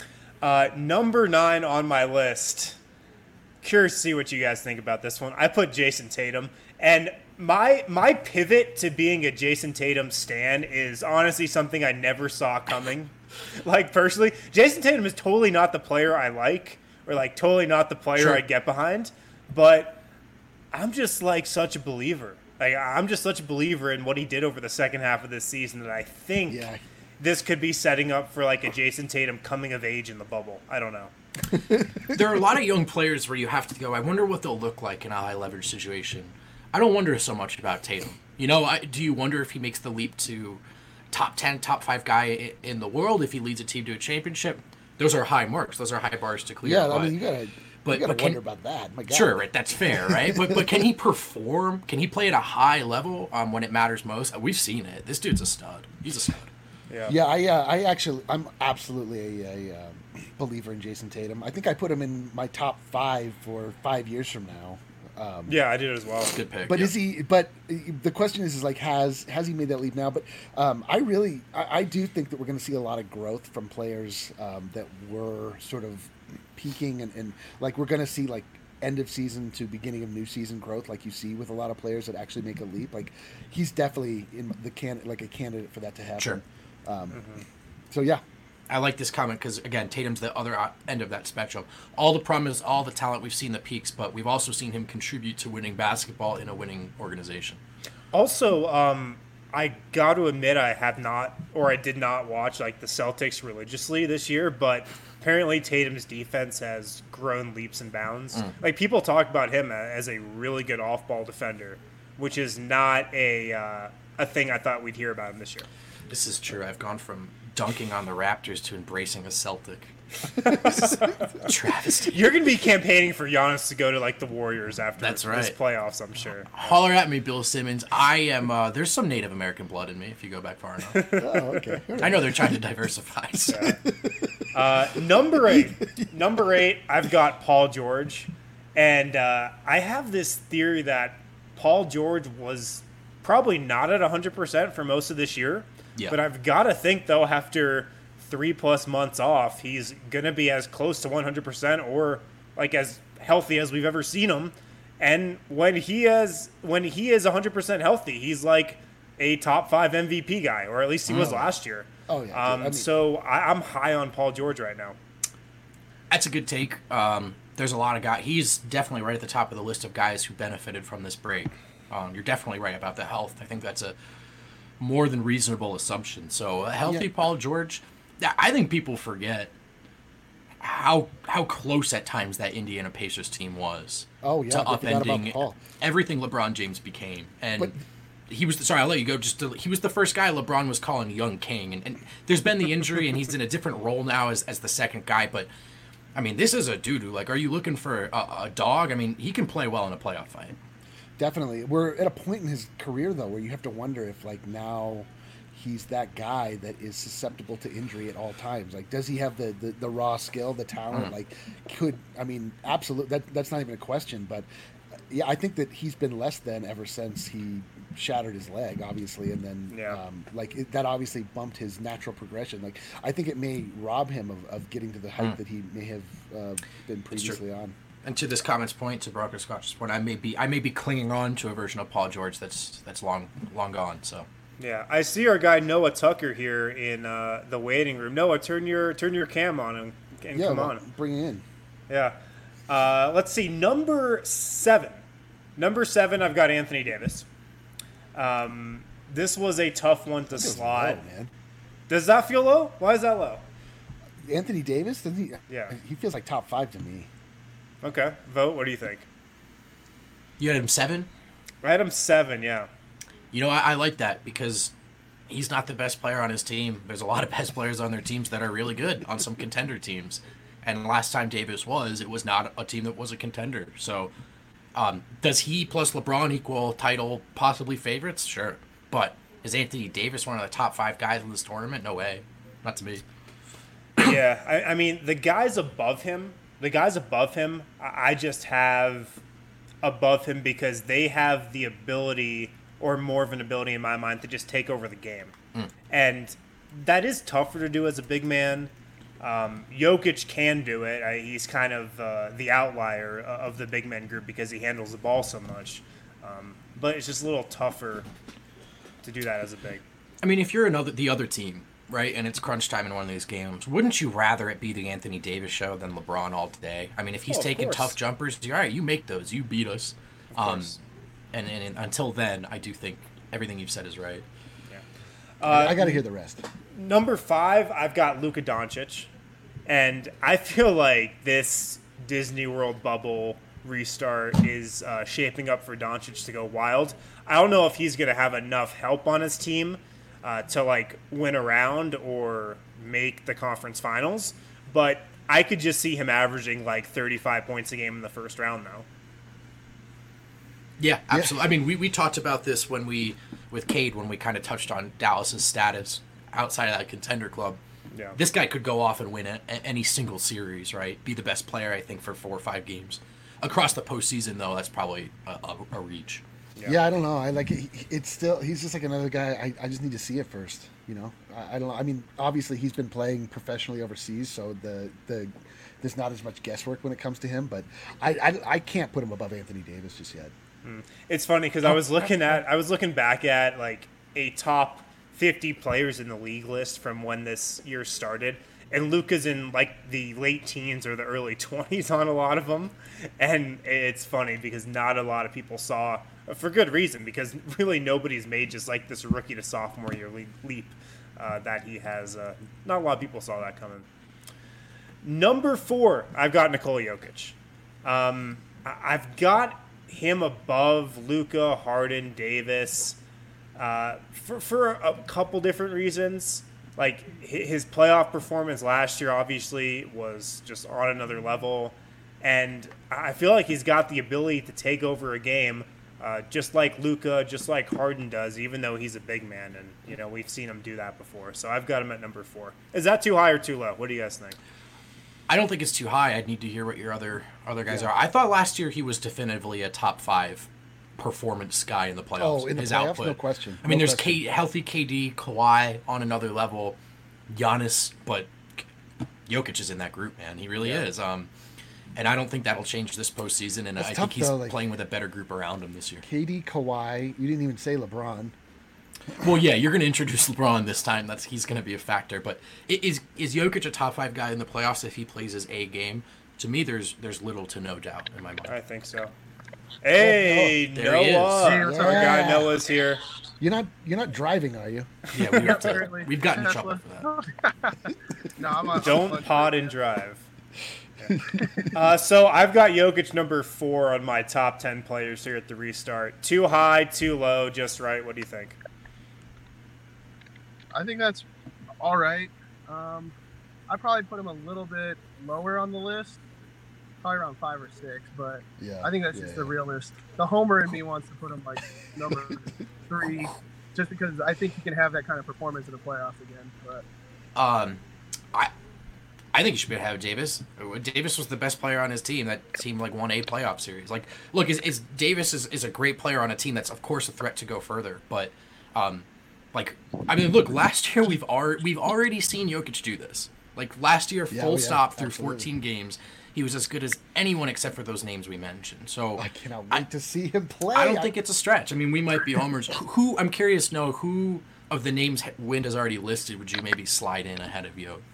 Uh, number nine on my list. Curious to see what you guys think about this one. I put Jason Tatum, and my my pivot to being a Jason Tatum stan is honestly something I never saw coming. Like personally, Jason Tatum is totally not the player I like, or like totally not the player Sure. I get behind. But I'm just like such a believer. Like I'm just such a believer in what he did over the second half of this season that I think Yeah. this could be setting up for like a Jason Tatum coming of age in the bubble. I don't know. There are a lot of young players where you have to go, I wonder what they'll look like in a high leverage situation. I don't wonder so much about Tatum. You know, I, do you wonder if he makes the leap to top ten, top five guy i- in the world, if he leads a team to a championship? Those are high marks. Those are high bars to clear. Yeah, I but- mean, you gotta, but- you gotta but can- wonder about that. My God. Sure, right, that's fair, right? but but can he perform? Can he play at a high level um, when it matters most? We've seen it. This dude's a stud. He's a stud. Yeah. Yeah, I, uh, I actually, I'm absolutely a, a um, believer in Jason Tatum. I think I put him in my top five for five years from now. Um, Yeah, I did as well. Good pick. But yeah. is he? But the question is, is like, has has he made that leap now? But um, I really, I, I do think that we're going to see a lot of growth from players um, that were sort of peaking, and, and like we're going to see like end of season to beginning of new season growth, like you see with a lot of players that actually make a leap. Like he's definitely in the can like a candidate for that to happen. Sure. Um, So yeah, I like this comment because, again, Tatum's the other o- end of that spectrum. All the promise, all the talent, we've seen the peaks, but we've also seen him contribute to winning basketball in a winning organization. Also, um, I got to admit I have not, or I did not watch like the Celtics religiously this year, but apparently Tatum's defense has grown leaps and bounds. Like people talk about him a- as a really good off-ball defender, which is not a uh, a thing I thought we'd hear about him this year. This is true. I've gone from dunking on the Raptors to embracing a Celtic. This is a travesty. You're going to be campaigning for Giannis to go to like the Warriors after That's this right. playoffs, I'm sure. Holler at me, Bill Simmons. I am, uh, there's some Native American blood in me if you go back far enough. oh, okay. All right. I know they're trying to diversify. So. Uh, number eight. Number eight, I've got Paul George. And uh, I have this theory that Paul George was probably not at one hundred percent for most of this year. Yeah. But I've got to think, though, after three plus months off, he's going to be as close to one hundred percent or like as healthy as we've ever seen him. And when he is when he is one hundred percent healthy, he's like a top five M V P guy, or at least he was Oh. last year. Oh, yeah. Um, I mean- so I, I'm high on Paul George right now. That's a good take. Um, there's a lot of guys. He's definitely right at the top of the list of guys who benefited from this break. Um, you're definitely right about the health. I think that's a more than reasonable assumption. So a healthy Yeah. Paul George, I think people forget how how close at times that Indiana Pacers team was. Oh, yeah, to I forgot about upending Paul. everything LeBron James became. And But- he was sorry, I'll let you go. Just to, he was the first guy LeBron was calling young king, and, and there's been the injury, and he's in a different role now as as the second guy. But I mean, this is a dude who, like, are you looking for a, a dog? I mean, he can play well in a playoff fight. Definitely. We're at a point in his career, though, where you have to wonder if, like, now he's that guy that is susceptible to injury at all times. Like, does he have the, the, the raw skill, the talent? Mm. Like, could, I mean, absolutely, that, that's not even a question. But, uh, yeah, I think that he's been less than ever since he shattered his leg, obviously. And then, Yeah. um, like, it, that obviously bumped his natural progression. Like, I think it may rob him of, of getting to the height Mm. that he may have uh, been That's true. previously on. And to this comment's point, to Brocker Scotch's point, I may be I may be clinging on to a version of Paul George that's that's long long gone. So Yeah, I see our guy Noah Tucker here in uh, the waiting room. Noah, turn your turn your cam on and, and Yeah, come well, on. bring it in. Yeah. Uh, let's see. Number seven. Number seven, I've got Anthony Davis. Um, this was a tough one to That feels slot. low, man. Does that feel low? Why is that low? Anthony Davis, doesn't he? Yeah. He feels like top five to me. Okay. Vote. What do you think? you had him seven. I had him seven, yeah. You know, I, I like that because he's not the best player on his team. There's a lot of best players on their teams that are really good on some contender teams. And last time Davis was, it was not a team that was a contender. So um, does he plus LeBron equal title possibly favorites? Sure. But is Anthony Davis one of the top five guys in this tournament? No way. Not to me. Yeah, I, I mean, the guys above him, the guys above him, I I just have above him because they have the ability, or more of an ability in my mind, to just take over the game. Mm. And that is tougher to do as a big man. Um, Jokic can do it. I, he's kind of uh, the outlier of the big man group because he handles the ball so much. Um, but it's just a little tougher to do that as a big. I mean, if you're another the other team, right, and it's crunch time in one of these games, wouldn't you rather it be the Anthony Davis show than LeBron all day? I mean, if he's Oh, of taking course. tough jumpers, all right, you make those, you beat us. Um, course. and, and, and until then, I do think everything you've said is right. Uh, I got to hear the rest. Number five, I've got Luka Doncic. And I feel like this Disney World bubble restart is uh, shaping up for Doncic to go wild. I don't know if he's going to have enough help on his team uh, to like win a round or make the conference finals, but I could just see him averaging like thirty-five points a game in the first round though. Yeah, absolutely. I mean, we, we talked about this when we, with Cade, when we kind of touched on Dallas's status outside of that contender club. Yeah. This guy could go off and win a, a- any single series, right? Be the best player, I think, for four or five games. Across the postseason, though, that's probably a, a, a reach. Yeah. I don't know. I like it. It's still he's just like another guy. I, I just need to see it first. You know, I, I don't know. I mean, obviously he's been playing professionally overseas, so the the there's not as much guesswork when it comes to him. But I I, I can't put him above Anthony Davis just yet. It's funny because I was looking at I was looking back at like a top fifty players in the league list from when this year started, and Luka's in like the late teens or the early twenties on a lot of them, and it's funny because not a lot of people saw, for good reason, because really nobody's made just like this rookie to sophomore year le- leap uh, that he has. Uh, not a lot of people saw that coming. Number four, I've got Nikola Jokic. Um, I- I've got him above Luka, Harden, Davis, uh, for for a couple different reasons. Like hi- his playoff performance last year, obviously, was just on another level, and I feel like he's got the ability to take over a game, uh, just like Luka, just like Harden does, even though he's a big man, and you know we've seen him do that before. So I've got him at number four. Is that too high or too low? What do you guys think? I don't think it's too high. I'd need to hear what your other other guys Yeah. are. I thought last year he was definitively a top five performance guy in the playoffs. Oh, in the his playoffs, output. no question. I mean, No there's question. K, healthy K D, Kawhi on another level, Giannis, but Jokic is in that group, man. He really Yeah. is. Um, and I don't think that'll change this postseason. And It's I tough, think he's though, like- playing with a better group around him this year. K D, Kawhi. You didn't even say LeBron. Well, yeah, you're going to introduce LeBron this time. That's he's going to be a factor. But i- is is Jokic a top five guy in the playoffs if he plays his A game? To me, there's there's little to no doubt in my mind. I think so. Hey, There he is. Noah. Hey, what's up, Our guy guys? Noah's here. You're not. You're not driving, are you? Yeah, we have to, Apparently. we've gotten in trouble for that. No, I'm on Don't pod and drive. Uh, so I've got Jokic number four on my top ten players here at the restart. Too high, too low, just right. What do you think? I think that's all right. Um, I probably put him a little bit lower on the list, probably around five or six. But Yeah. I think that's yeah, just yeah. the realist. The homer in me wants to put him like number three, just because I think he can have that kind of performance in the playoffs again. But Um, I I think you should be able to have Davis. Davis was the best player on his team. That team like won a playoff series. Like, look, is, is Davis is, is a great player on a team that's of course a threat to go further. But, um, like, I mean, look, last year we've already we've already seen Jokic do this. Like last year, Yeah, full oh, yeah, stop through absolutely. fourteen games, he was as good as anyone except for those names we mentioned. So I cannot wait I- to see him play. I don't think it's a stretch. I mean, we might be homers. Who, who I'm curious to know who of the names Wind has already listed would you maybe slide in ahead of Jokic?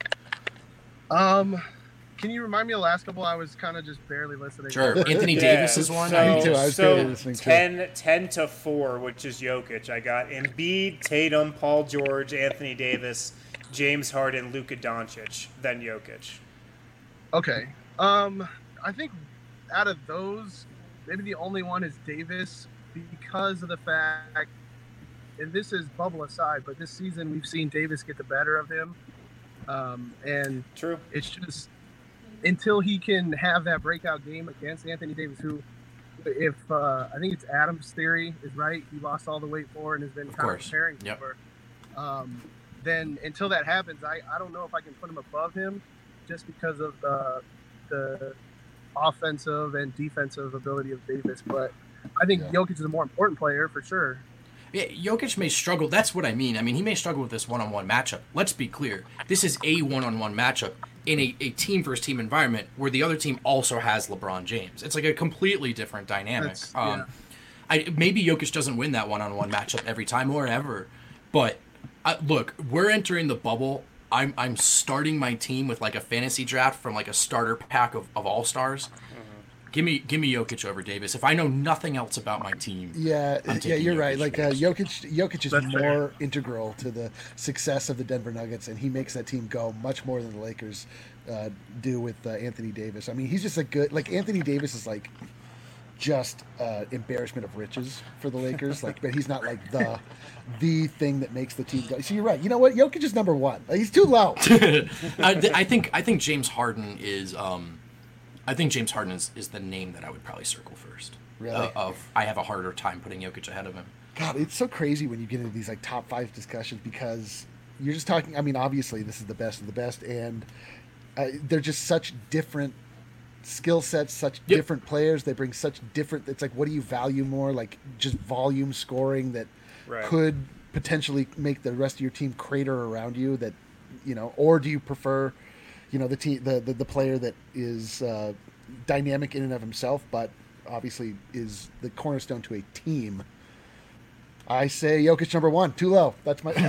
um, can you remind me of the last couple? I was kind of just barely listening. Sure. Anthony Yeah, Davis is one. So, Me too, I was so barely listening, too. ten, ten to four, which is Jokic. I got Embiid, Tatum, Paul George, Anthony Davis, James Harden, Luka Doncic, then Jokic. Okay. Um, I think out of those, maybe the only one is Davis because of the fact, and this is bubble aside, but this season we've seen Davis get the better of him. Um, and True. it's just until he can have that breakout game against Anthony Davis, who, if uh, I think it's Adam's theory is right, he lost all the weight for and has been Of kind course. of preparing Yep. for. Um, then until that happens, I, I don't know if I can put him above him, just because of the the offensive and defensive ability of Davis. But I think Yeah. Jokic is a more important player for sure. Yeah, Jokic may struggle. That's what I mean. I mean, he may struggle with this one-on-one matchup. Let's be clear. This is a one-on-one matchup in a, a team versus team environment where the other team also has LeBron James. It's like a completely different dynamic. That's- Um, I, maybe Jokic doesn't win that one-on-one matchup every time or ever, but uh, look, we're entering the bubble. I'm I'm starting my team with like a fantasy draft from like a starter pack of, of all-stars. Give me give me Jokic over Davis. If I know nothing else about my team, Yeah, I'm yeah, taking you're Jokic right. Like uh, first. Jokic, Jokic is That's more fair. integral to the success of the Denver Nuggets, and he makes that team go much more than the Lakers uh, do with uh, Anthony Davis. I mean, he's just a good. Like Anthony Davis is like just uh, embarrassment of riches for the Lakers. Like, but he's not like the the thing that makes the team go. So you're right. You know what? Jokic is number one. Like, he's too low. I, th- I think I think James Harden is um, I think James Harden is, is the name that I would probably circle first. Really? Uh, of I have a harder time putting Jokic ahead of him. God, it's so crazy when you get into these like top five discussions because you're just talking. I mean, obviously, this is the best of the best, and uh, they're just such different skill sets, such Yep. different players. They bring such different. It's like, what do you value more? Like just volume scoring that Right. could potentially make the rest of your team crater around you. That you know, or do you prefer, you know, the team, the the, the player that is uh, dynamic in and of himself, but obviously is the cornerstone to a team. I say Jokic number one, too low. That's my.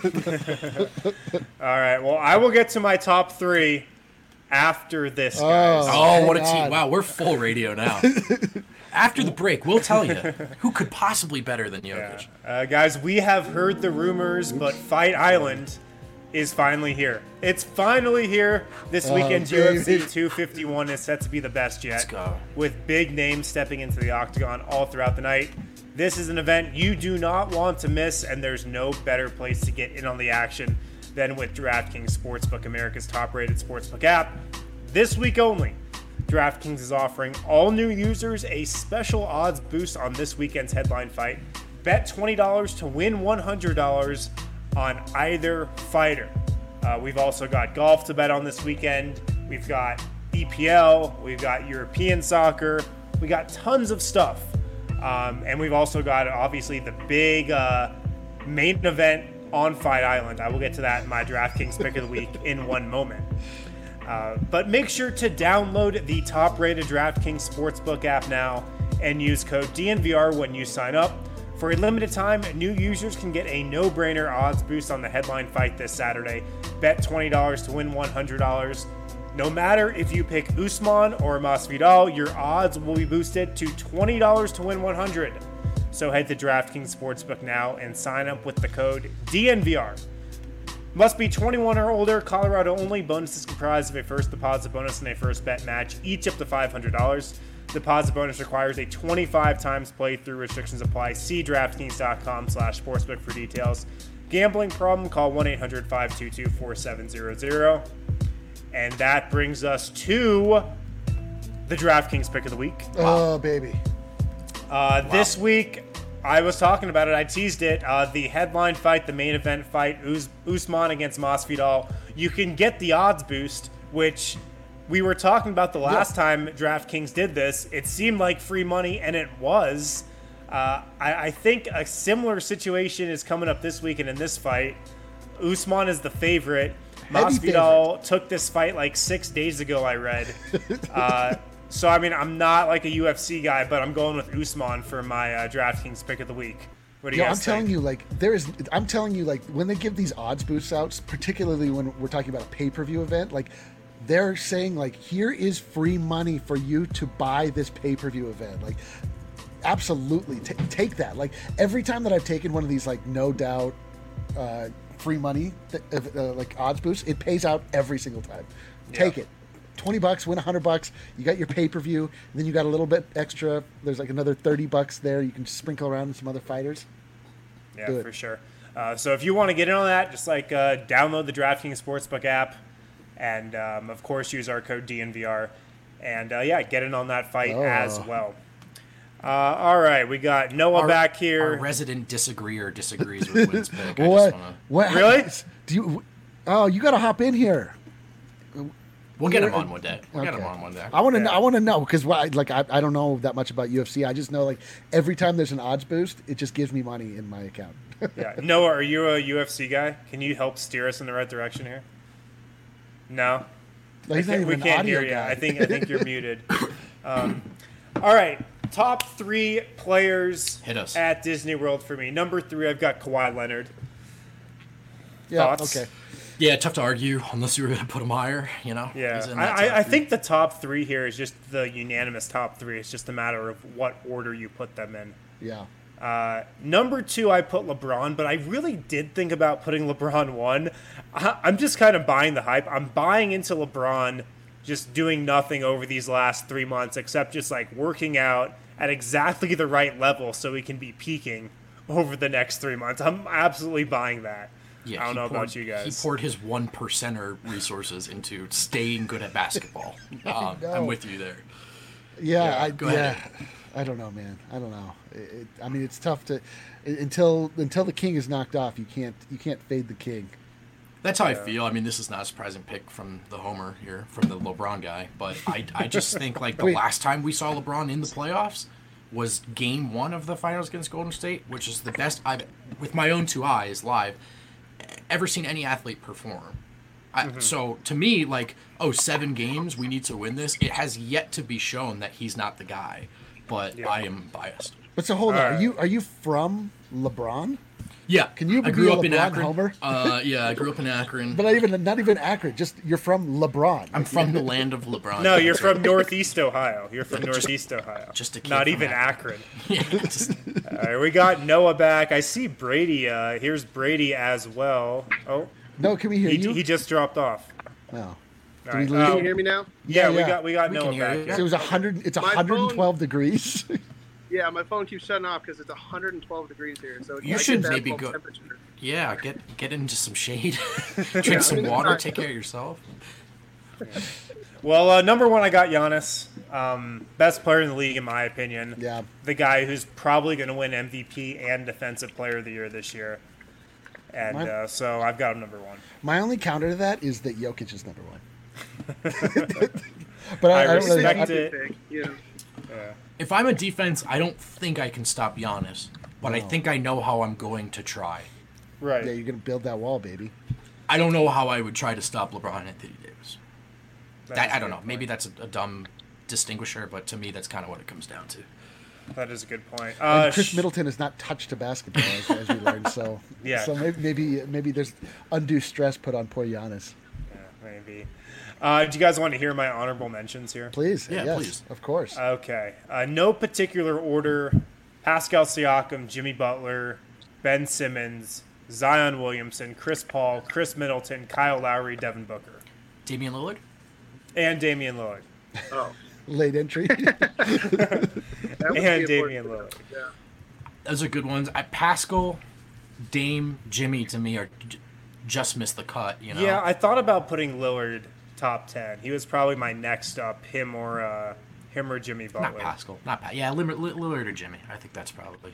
All right. Well, I will get to my top three after this, Oh. guys. Oh, what a hang team! on. Wow, we're full radio now. After the break, we'll tell you who could possibly better than Yeah. Jokic. Uh, guys, we have heard the rumors, but Fight Island is finally here. It's finally here. This Oh, weekend's baby. U F C two fifty-one is set to be the best yet. Let's go. With big names stepping into the octagon all throughout the night. This is an event you do not want to miss, and there's no better place to get in on the action than with DraftKings Sportsbook, America's top-rated sportsbook app. This week only, DraftKings is offering all new users a special odds boost on this weekend's headline fight. Bet twenty dollars to win one hundred dollars on either fighter. Uh, we've also got golf to bet on this weekend, We've got E P L. We've got European soccer. We got tons of stuff. Um, and we've also got, obviously, the big uh, main event on Fight Island. I will get to that in my DraftKings Pick of the Week in one moment. Uh, but make sure to download the top-rated DraftKings Sportsbook app now and use code D N V R when you sign up. For a limited time, new users can get a no-brainer odds boost on the headline fight this Saturday. Bet twenty dollars to win one hundred dollars. No matter if you pick Usman or Masvidal, your odds will be boosted to twenty dollars to win one hundred dollars. So head to DraftKings Sportsbook now and sign up with the code D N V R. Must be twenty-one or older, Colorado only. Bonus is comprised of a first deposit bonus and a first bet match, each up to five hundred dollars. Deposit bonus requires a twenty-five times playthrough. Restrictions apply. See DraftKings.com slash sportsbook for details. Gambling problem? Call one eight hundred five two two four seven zero zero. And that brings us to the DraftKings Pick of the Week. Oh, wow. baby. Uh, wow. This week, I was talking about it. I teased it. Uh, the headline fight, the main event fight, Us- Usman against Masvidal. You can get the odds boost, which we were talking about the last yeah. time DraftKings did this. It seemed like free money, and it was. Uh, I, I think a similar situation is coming up this week, and in this fight, Usman is the favorite. Masvidal took this fight like six days ago, I read. Uh, so, I mean, I'm not like a U F C guy, but I'm going with Usman for my uh, DraftKings Pick of the Week. What do you Yo, guys I'm think? telling you, like, there is. I'm telling you, like, when they give these odds boosts out, particularly when we're talking about a pay-per-view event, like, they're saying, like, here is free money for you to buy this pay-per-view event. Like, absolutely, t- take that. Like, every time that I've taken one of these, like, no doubt, uh, free money, uh, like odds boost, it pays out every single time. Take yeah. it. twenty bucks, win one hundred bucks. You got your pay-per-view, and then you got a little bit extra. There's like another thirty bucks there. You can sprinkle around in some other fighters. Yeah, for sure. Uh, so if you want to get in on that, just like uh, download the DraftKings Sportsbook app, and um, of course use our code D N V R, and uh, yeah, get in on that fight oh. as well. Uh, all right, we got Noah our, back here. Our resident disagreeer disagrees with Wynn's pick. what? Wanna... What? Really? Do you? Oh, you got to hop in here. We'll get him on one day. We'll okay. get him on one day. I want to. Yeah. I want to know because like I, I don't know that much about U F C. I just know like every time there's an odds boost, it just gives me money in my account. yeah. Noah, are you a U F C guy? Can you help steer us in the right direction here? No. no he's not even we an can't audio hear you. guy. I think I think you're muted. Um, all right. Top three players Hit us. at Disney World for me. Number three, I've got Kawhi Leonard. Yeah. Thoughts? Okay. Yeah, tough to argue unless you were going to put him higher. You know. Yeah. I, I, I think the top three here is just the unanimous top three. It's just a matter of what order you put them in. Yeah. Uh, number two, I put LeBron, but I really did think about putting LeBron one. I, I'm just kind of buying the hype. I'm buying into LeBron just doing nothing over these last three months except just like working out at exactly the right level so he can be peaking over the next three months. I'm absolutely buying that. Yeah, I don't know poured, about you guys. He poured his one percenter resources into staying good at basketball. Um, I'm with you there. Yeah, yeah I, go yeah. ahead. I don't know, man. I don't know. It, it, I mean, it's tough to until until the king is knocked off. You can't you can't fade the king. That's how I feel. I mean, this is not a surprising pick from the homer here, from the LeBron guy. But I, I just think, like, the Wait. last time we saw LeBron in the playoffs was game one of the finals against Golden State, which is the best I've, with my own two eyes, live, ever seen any athlete perform. I, mm-hmm. So, to me, like, oh, seven games, we need to win this. It has yet to be shown that he's not the guy. But yeah. I am biased. But so, hold All on. right. Are you, are you from LeBron? Yeah, Can you I be grew a up in LeBron Akron. homer? Uh, yeah, I grew up in Akron. But not even not even Akron. Just you're from LeBron. I'm from the land of LeBron. No, you're from Northeast Ohio. You're from Northeast Ohio. Just a kid Not from even Akron. Akron. Yeah, just, All right, we got Noah back. I see Brady. Uh, here's Brady as well. Oh, no, can we hear he, you? he just dropped off. No. All Did right, we lose um, Can you hear me now? Yeah, Yeah, we yeah. got we got We Noah can hear back you. here. So it was one hundred. It's My one hundred twelve degrees. Yeah, my phone keeps shutting off because it's one hundred twelve degrees here. So You I should get that maybe full go- temperature. yeah, get get into some shade, Yeah, drink some I mean, water, it's take care of yourself. Well, uh, number one, I got Giannis. Um, best player in the league, in my opinion. Yeah. The guy who's probably going to win M V P and Defensive Player of the Year this year. And My- uh, so I've got him number one. My only counter to that is that Jokic is number one. But I, I I don't really. respect I, it. Pick, yeah. Yeah. If I'm a defense, I don't think I can stop Giannis, but I No. think I know how I'm going to try. Right. yeah, you're gonna build that wall, baby. I don't know how I would try to stop LeBron Anthony Davis. That That, is I a don't good know. Maybe point. that's a, a dumb distinguisher, but to me, that's kind of what it comes down to. That is a good point. And Uh, Chris sh- Middleton has not touched a basketball, as, as we learned. So Yeah. So maybe, maybe maybe there's undue stress put on poor Giannis. Yeah, maybe. Uh, do you guys want to hear my honorable mentions here? Please, Yeah, yes, please. of course. Okay. Uh, no particular order. Pascal Siakam, Jimmy Butler, Ben Simmons, Zion Williamson, Chris Paul, Chris Middleton, Kyle Lowry, Devin Booker, Damian Lillard? and Damian Lillard. Oh, Late entry. that would be And important Damian to know. Lillard. Yeah. Those are good ones. I, Pascal, Dame, Jimmy, to me, are j- just missed the cut, you know? Yeah, I thought about putting Lillard top ten. He was probably my next up, him or uh, him or Jimmy Butler. Not Pascal. Not pa- Yeah, Lillard, Lillard or Jimmy. I think that's probably...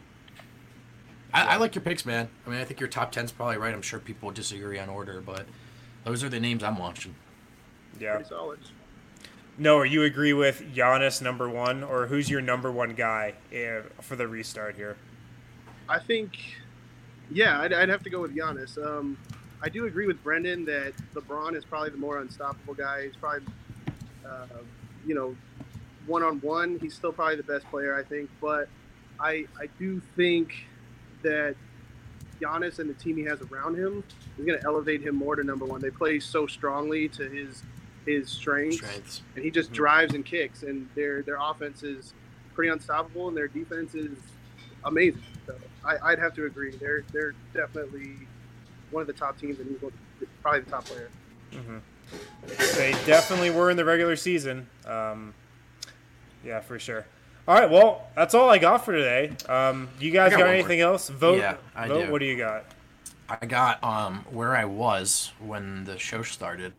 I, I like your picks, man. I mean, I think your top ten's probably right. I'm sure people would disagree on order, but those are the names I'm watching. Yeah. Pretty solid. No, you agree with Giannis number one, or who's your number one guy uh, for the restart here? I think, yeah, I'd, I'd have to go with Giannis. Um, I do agree with Brendan that LeBron is probably the more unstoppable guy. He's probably, uh, you know, one-on-one, he's still probably the best player, I think. But I, I do think that Giannis and the team he has around him is going to elevate him more to number one. They play so strongly to his his strengths, Strengths. and he just drives and kicks, and their their offense is pretty unstoppable, and their defense is amazing. So I, I'd have to agree. They're they're definitely one of the top teams, and he's one, probably the top player. Mm-hmm. They definitely were in the regular season. Um, yeah, for sure. All right, well, that's all I got for today. Um, you guys I got got, one anything more. else? Vote. Yeah, I vote. do. What do you got? I got um where I was when the show started.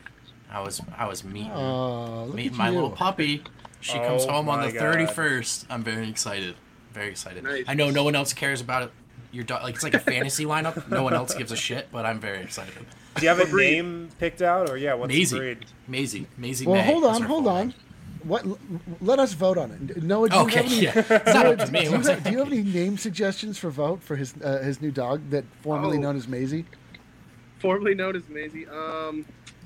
I was I was meeting Oh, look meeting at my you. little puppy. She comes Oh home on my the God. thirty-first. I'm very excited. Very excited. Nice. I know no one else cares about it. Your dog, like it's like a fantasy lineup. No one else gives a shit, but I'm very excited. Do you have a What breed? name picked out, or yeah, what's Maisie. the breed? Maisie. Maisie Well, May hold is on, her hold full on. name. What? Let us vote on it. Noah, do you Okay, have any, yeah. It's not up to do, me. you What's have, it? do you have any name suggestions for vote for his uh, his new dog that formerly Oh. known as Maisie? Formerly known as Maisie. Um,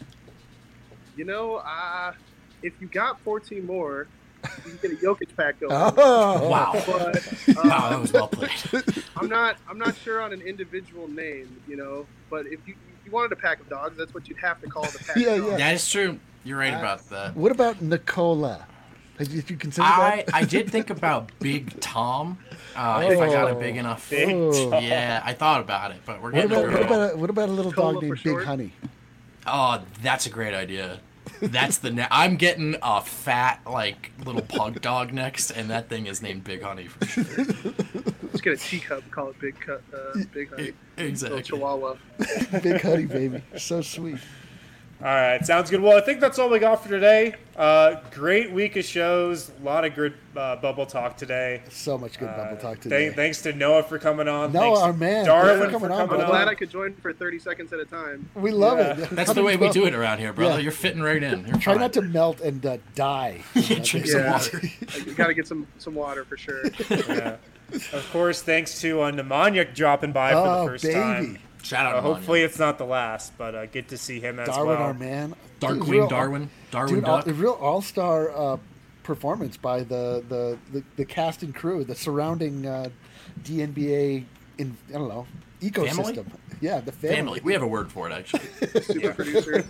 you know, uh, if you got fourteen more, you can get a Jokic pack going. Oh, Wow. But Wow, that uh, was well played. I'm not I'm not sure on an individual name, you know. But if you if you wanted a pack of dogs, that's what you'd have to call the pack. Yeah, of dogs. yeah. That is true. You're right Uh, about that. What about Nicola? Did you consider I, that? I did think about Big Tom, uh, if I got a Oh. big enough. Big Oh. Yeah, I thought about it, but we're What getting about, a what, girl. about a, what about a little Nicola dog for named short? Big Honey? Oh, that's a great idea. That's the ne- I'm getting a fat like little pug dog next, and that thing is named Big Honey for sure. Just get a teacup, call it Big Cut, uh, Big Honey, Exactly. little Chihuahua. Big Honey, baby. So sweet. All right, sounds good. Well, I think that's all we got for today. Uh, great week of shows. A lot of good uh, bubble talk today. So much good bubble Uh, talk today. Thank, thanks to Noah for coming on. Noah, thanks our to man. Darwin Thanks for for coming on, coming brother. I'm glad on. I could join for thirty seconds at a time. we love Yeah. it. That's the way we do it around here, brother. Yeah. You're fitting right in. You're Try fine. not to melt and uh, die. Yeah, drink some Yeah. water. You got to get some some water for sure. Yeah. Of course, thanks to uh, Nemanja dropping by for Oh, the first baby. time. Shout out Uh, to hopefully it's not the last, but uh, get to see him as Darwin, well. our man. Dude, Darkwing real- Darwin. Darwin Dude, all, Duck. a real all-star uh, performance by the, the, the, the cast and crew, the surrounding uh, D N B A, in, I don't know, ecosystem. Family? Yeah, the family. Family. We have a word for it, actually. Super producer.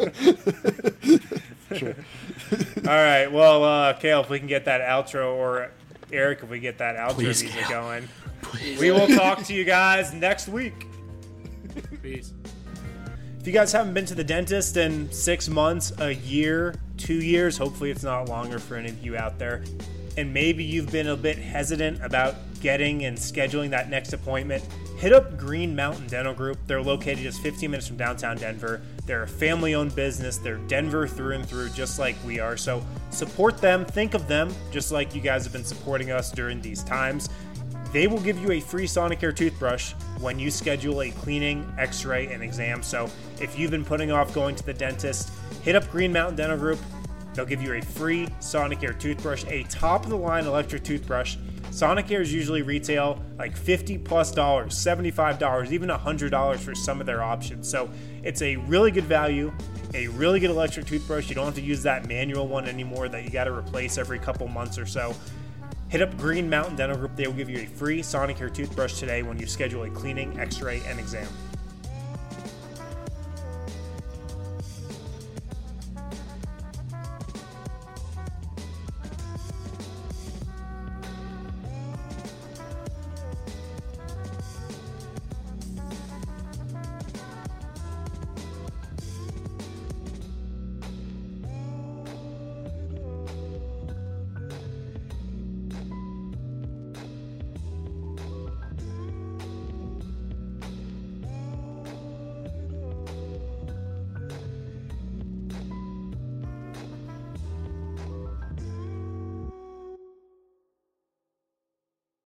Sure. All right, well, uh, Kale, if we can get that outro, or Eric, if we get that outro Please, music Kale. going, we will talk to you guys next week. Peace. If you guys haven't been to the dentist in six months, a year, two years, hopefully it's not longer for any of you out there, and maybe you've been a bit hesitant about getting and scheduling that next appointment, hit up Green Mountain Dental Group. They're located just fifteen minutes from downtown Denver. They're a family-owned business. They're Denver through and through, just like we are. So support them. Think of them, just like you guys have been supporting us during these times. If They will give you a free Sonicare toothbrush when you schedule a cleaning, x-ray, and exam. So if you've been putting off going to the dentist, hit up Green Mountain Dental Group. They'll give you a free Sonicare toothbrush, a top-of-the-line electric toothbrush. Sonicares usually retail like fifty plus dollars, seventy-five dollars, even one hundred dollars for some of their options. So it's a really good value, a really good electric toothbrush. You don't have to use that manual one anymore that you got to replace every couple months or so. Hit up Green Mountain Dental Group. They will give you a free Sonicare toothbrush today when you schedule a cleaning, x-ray, and exam.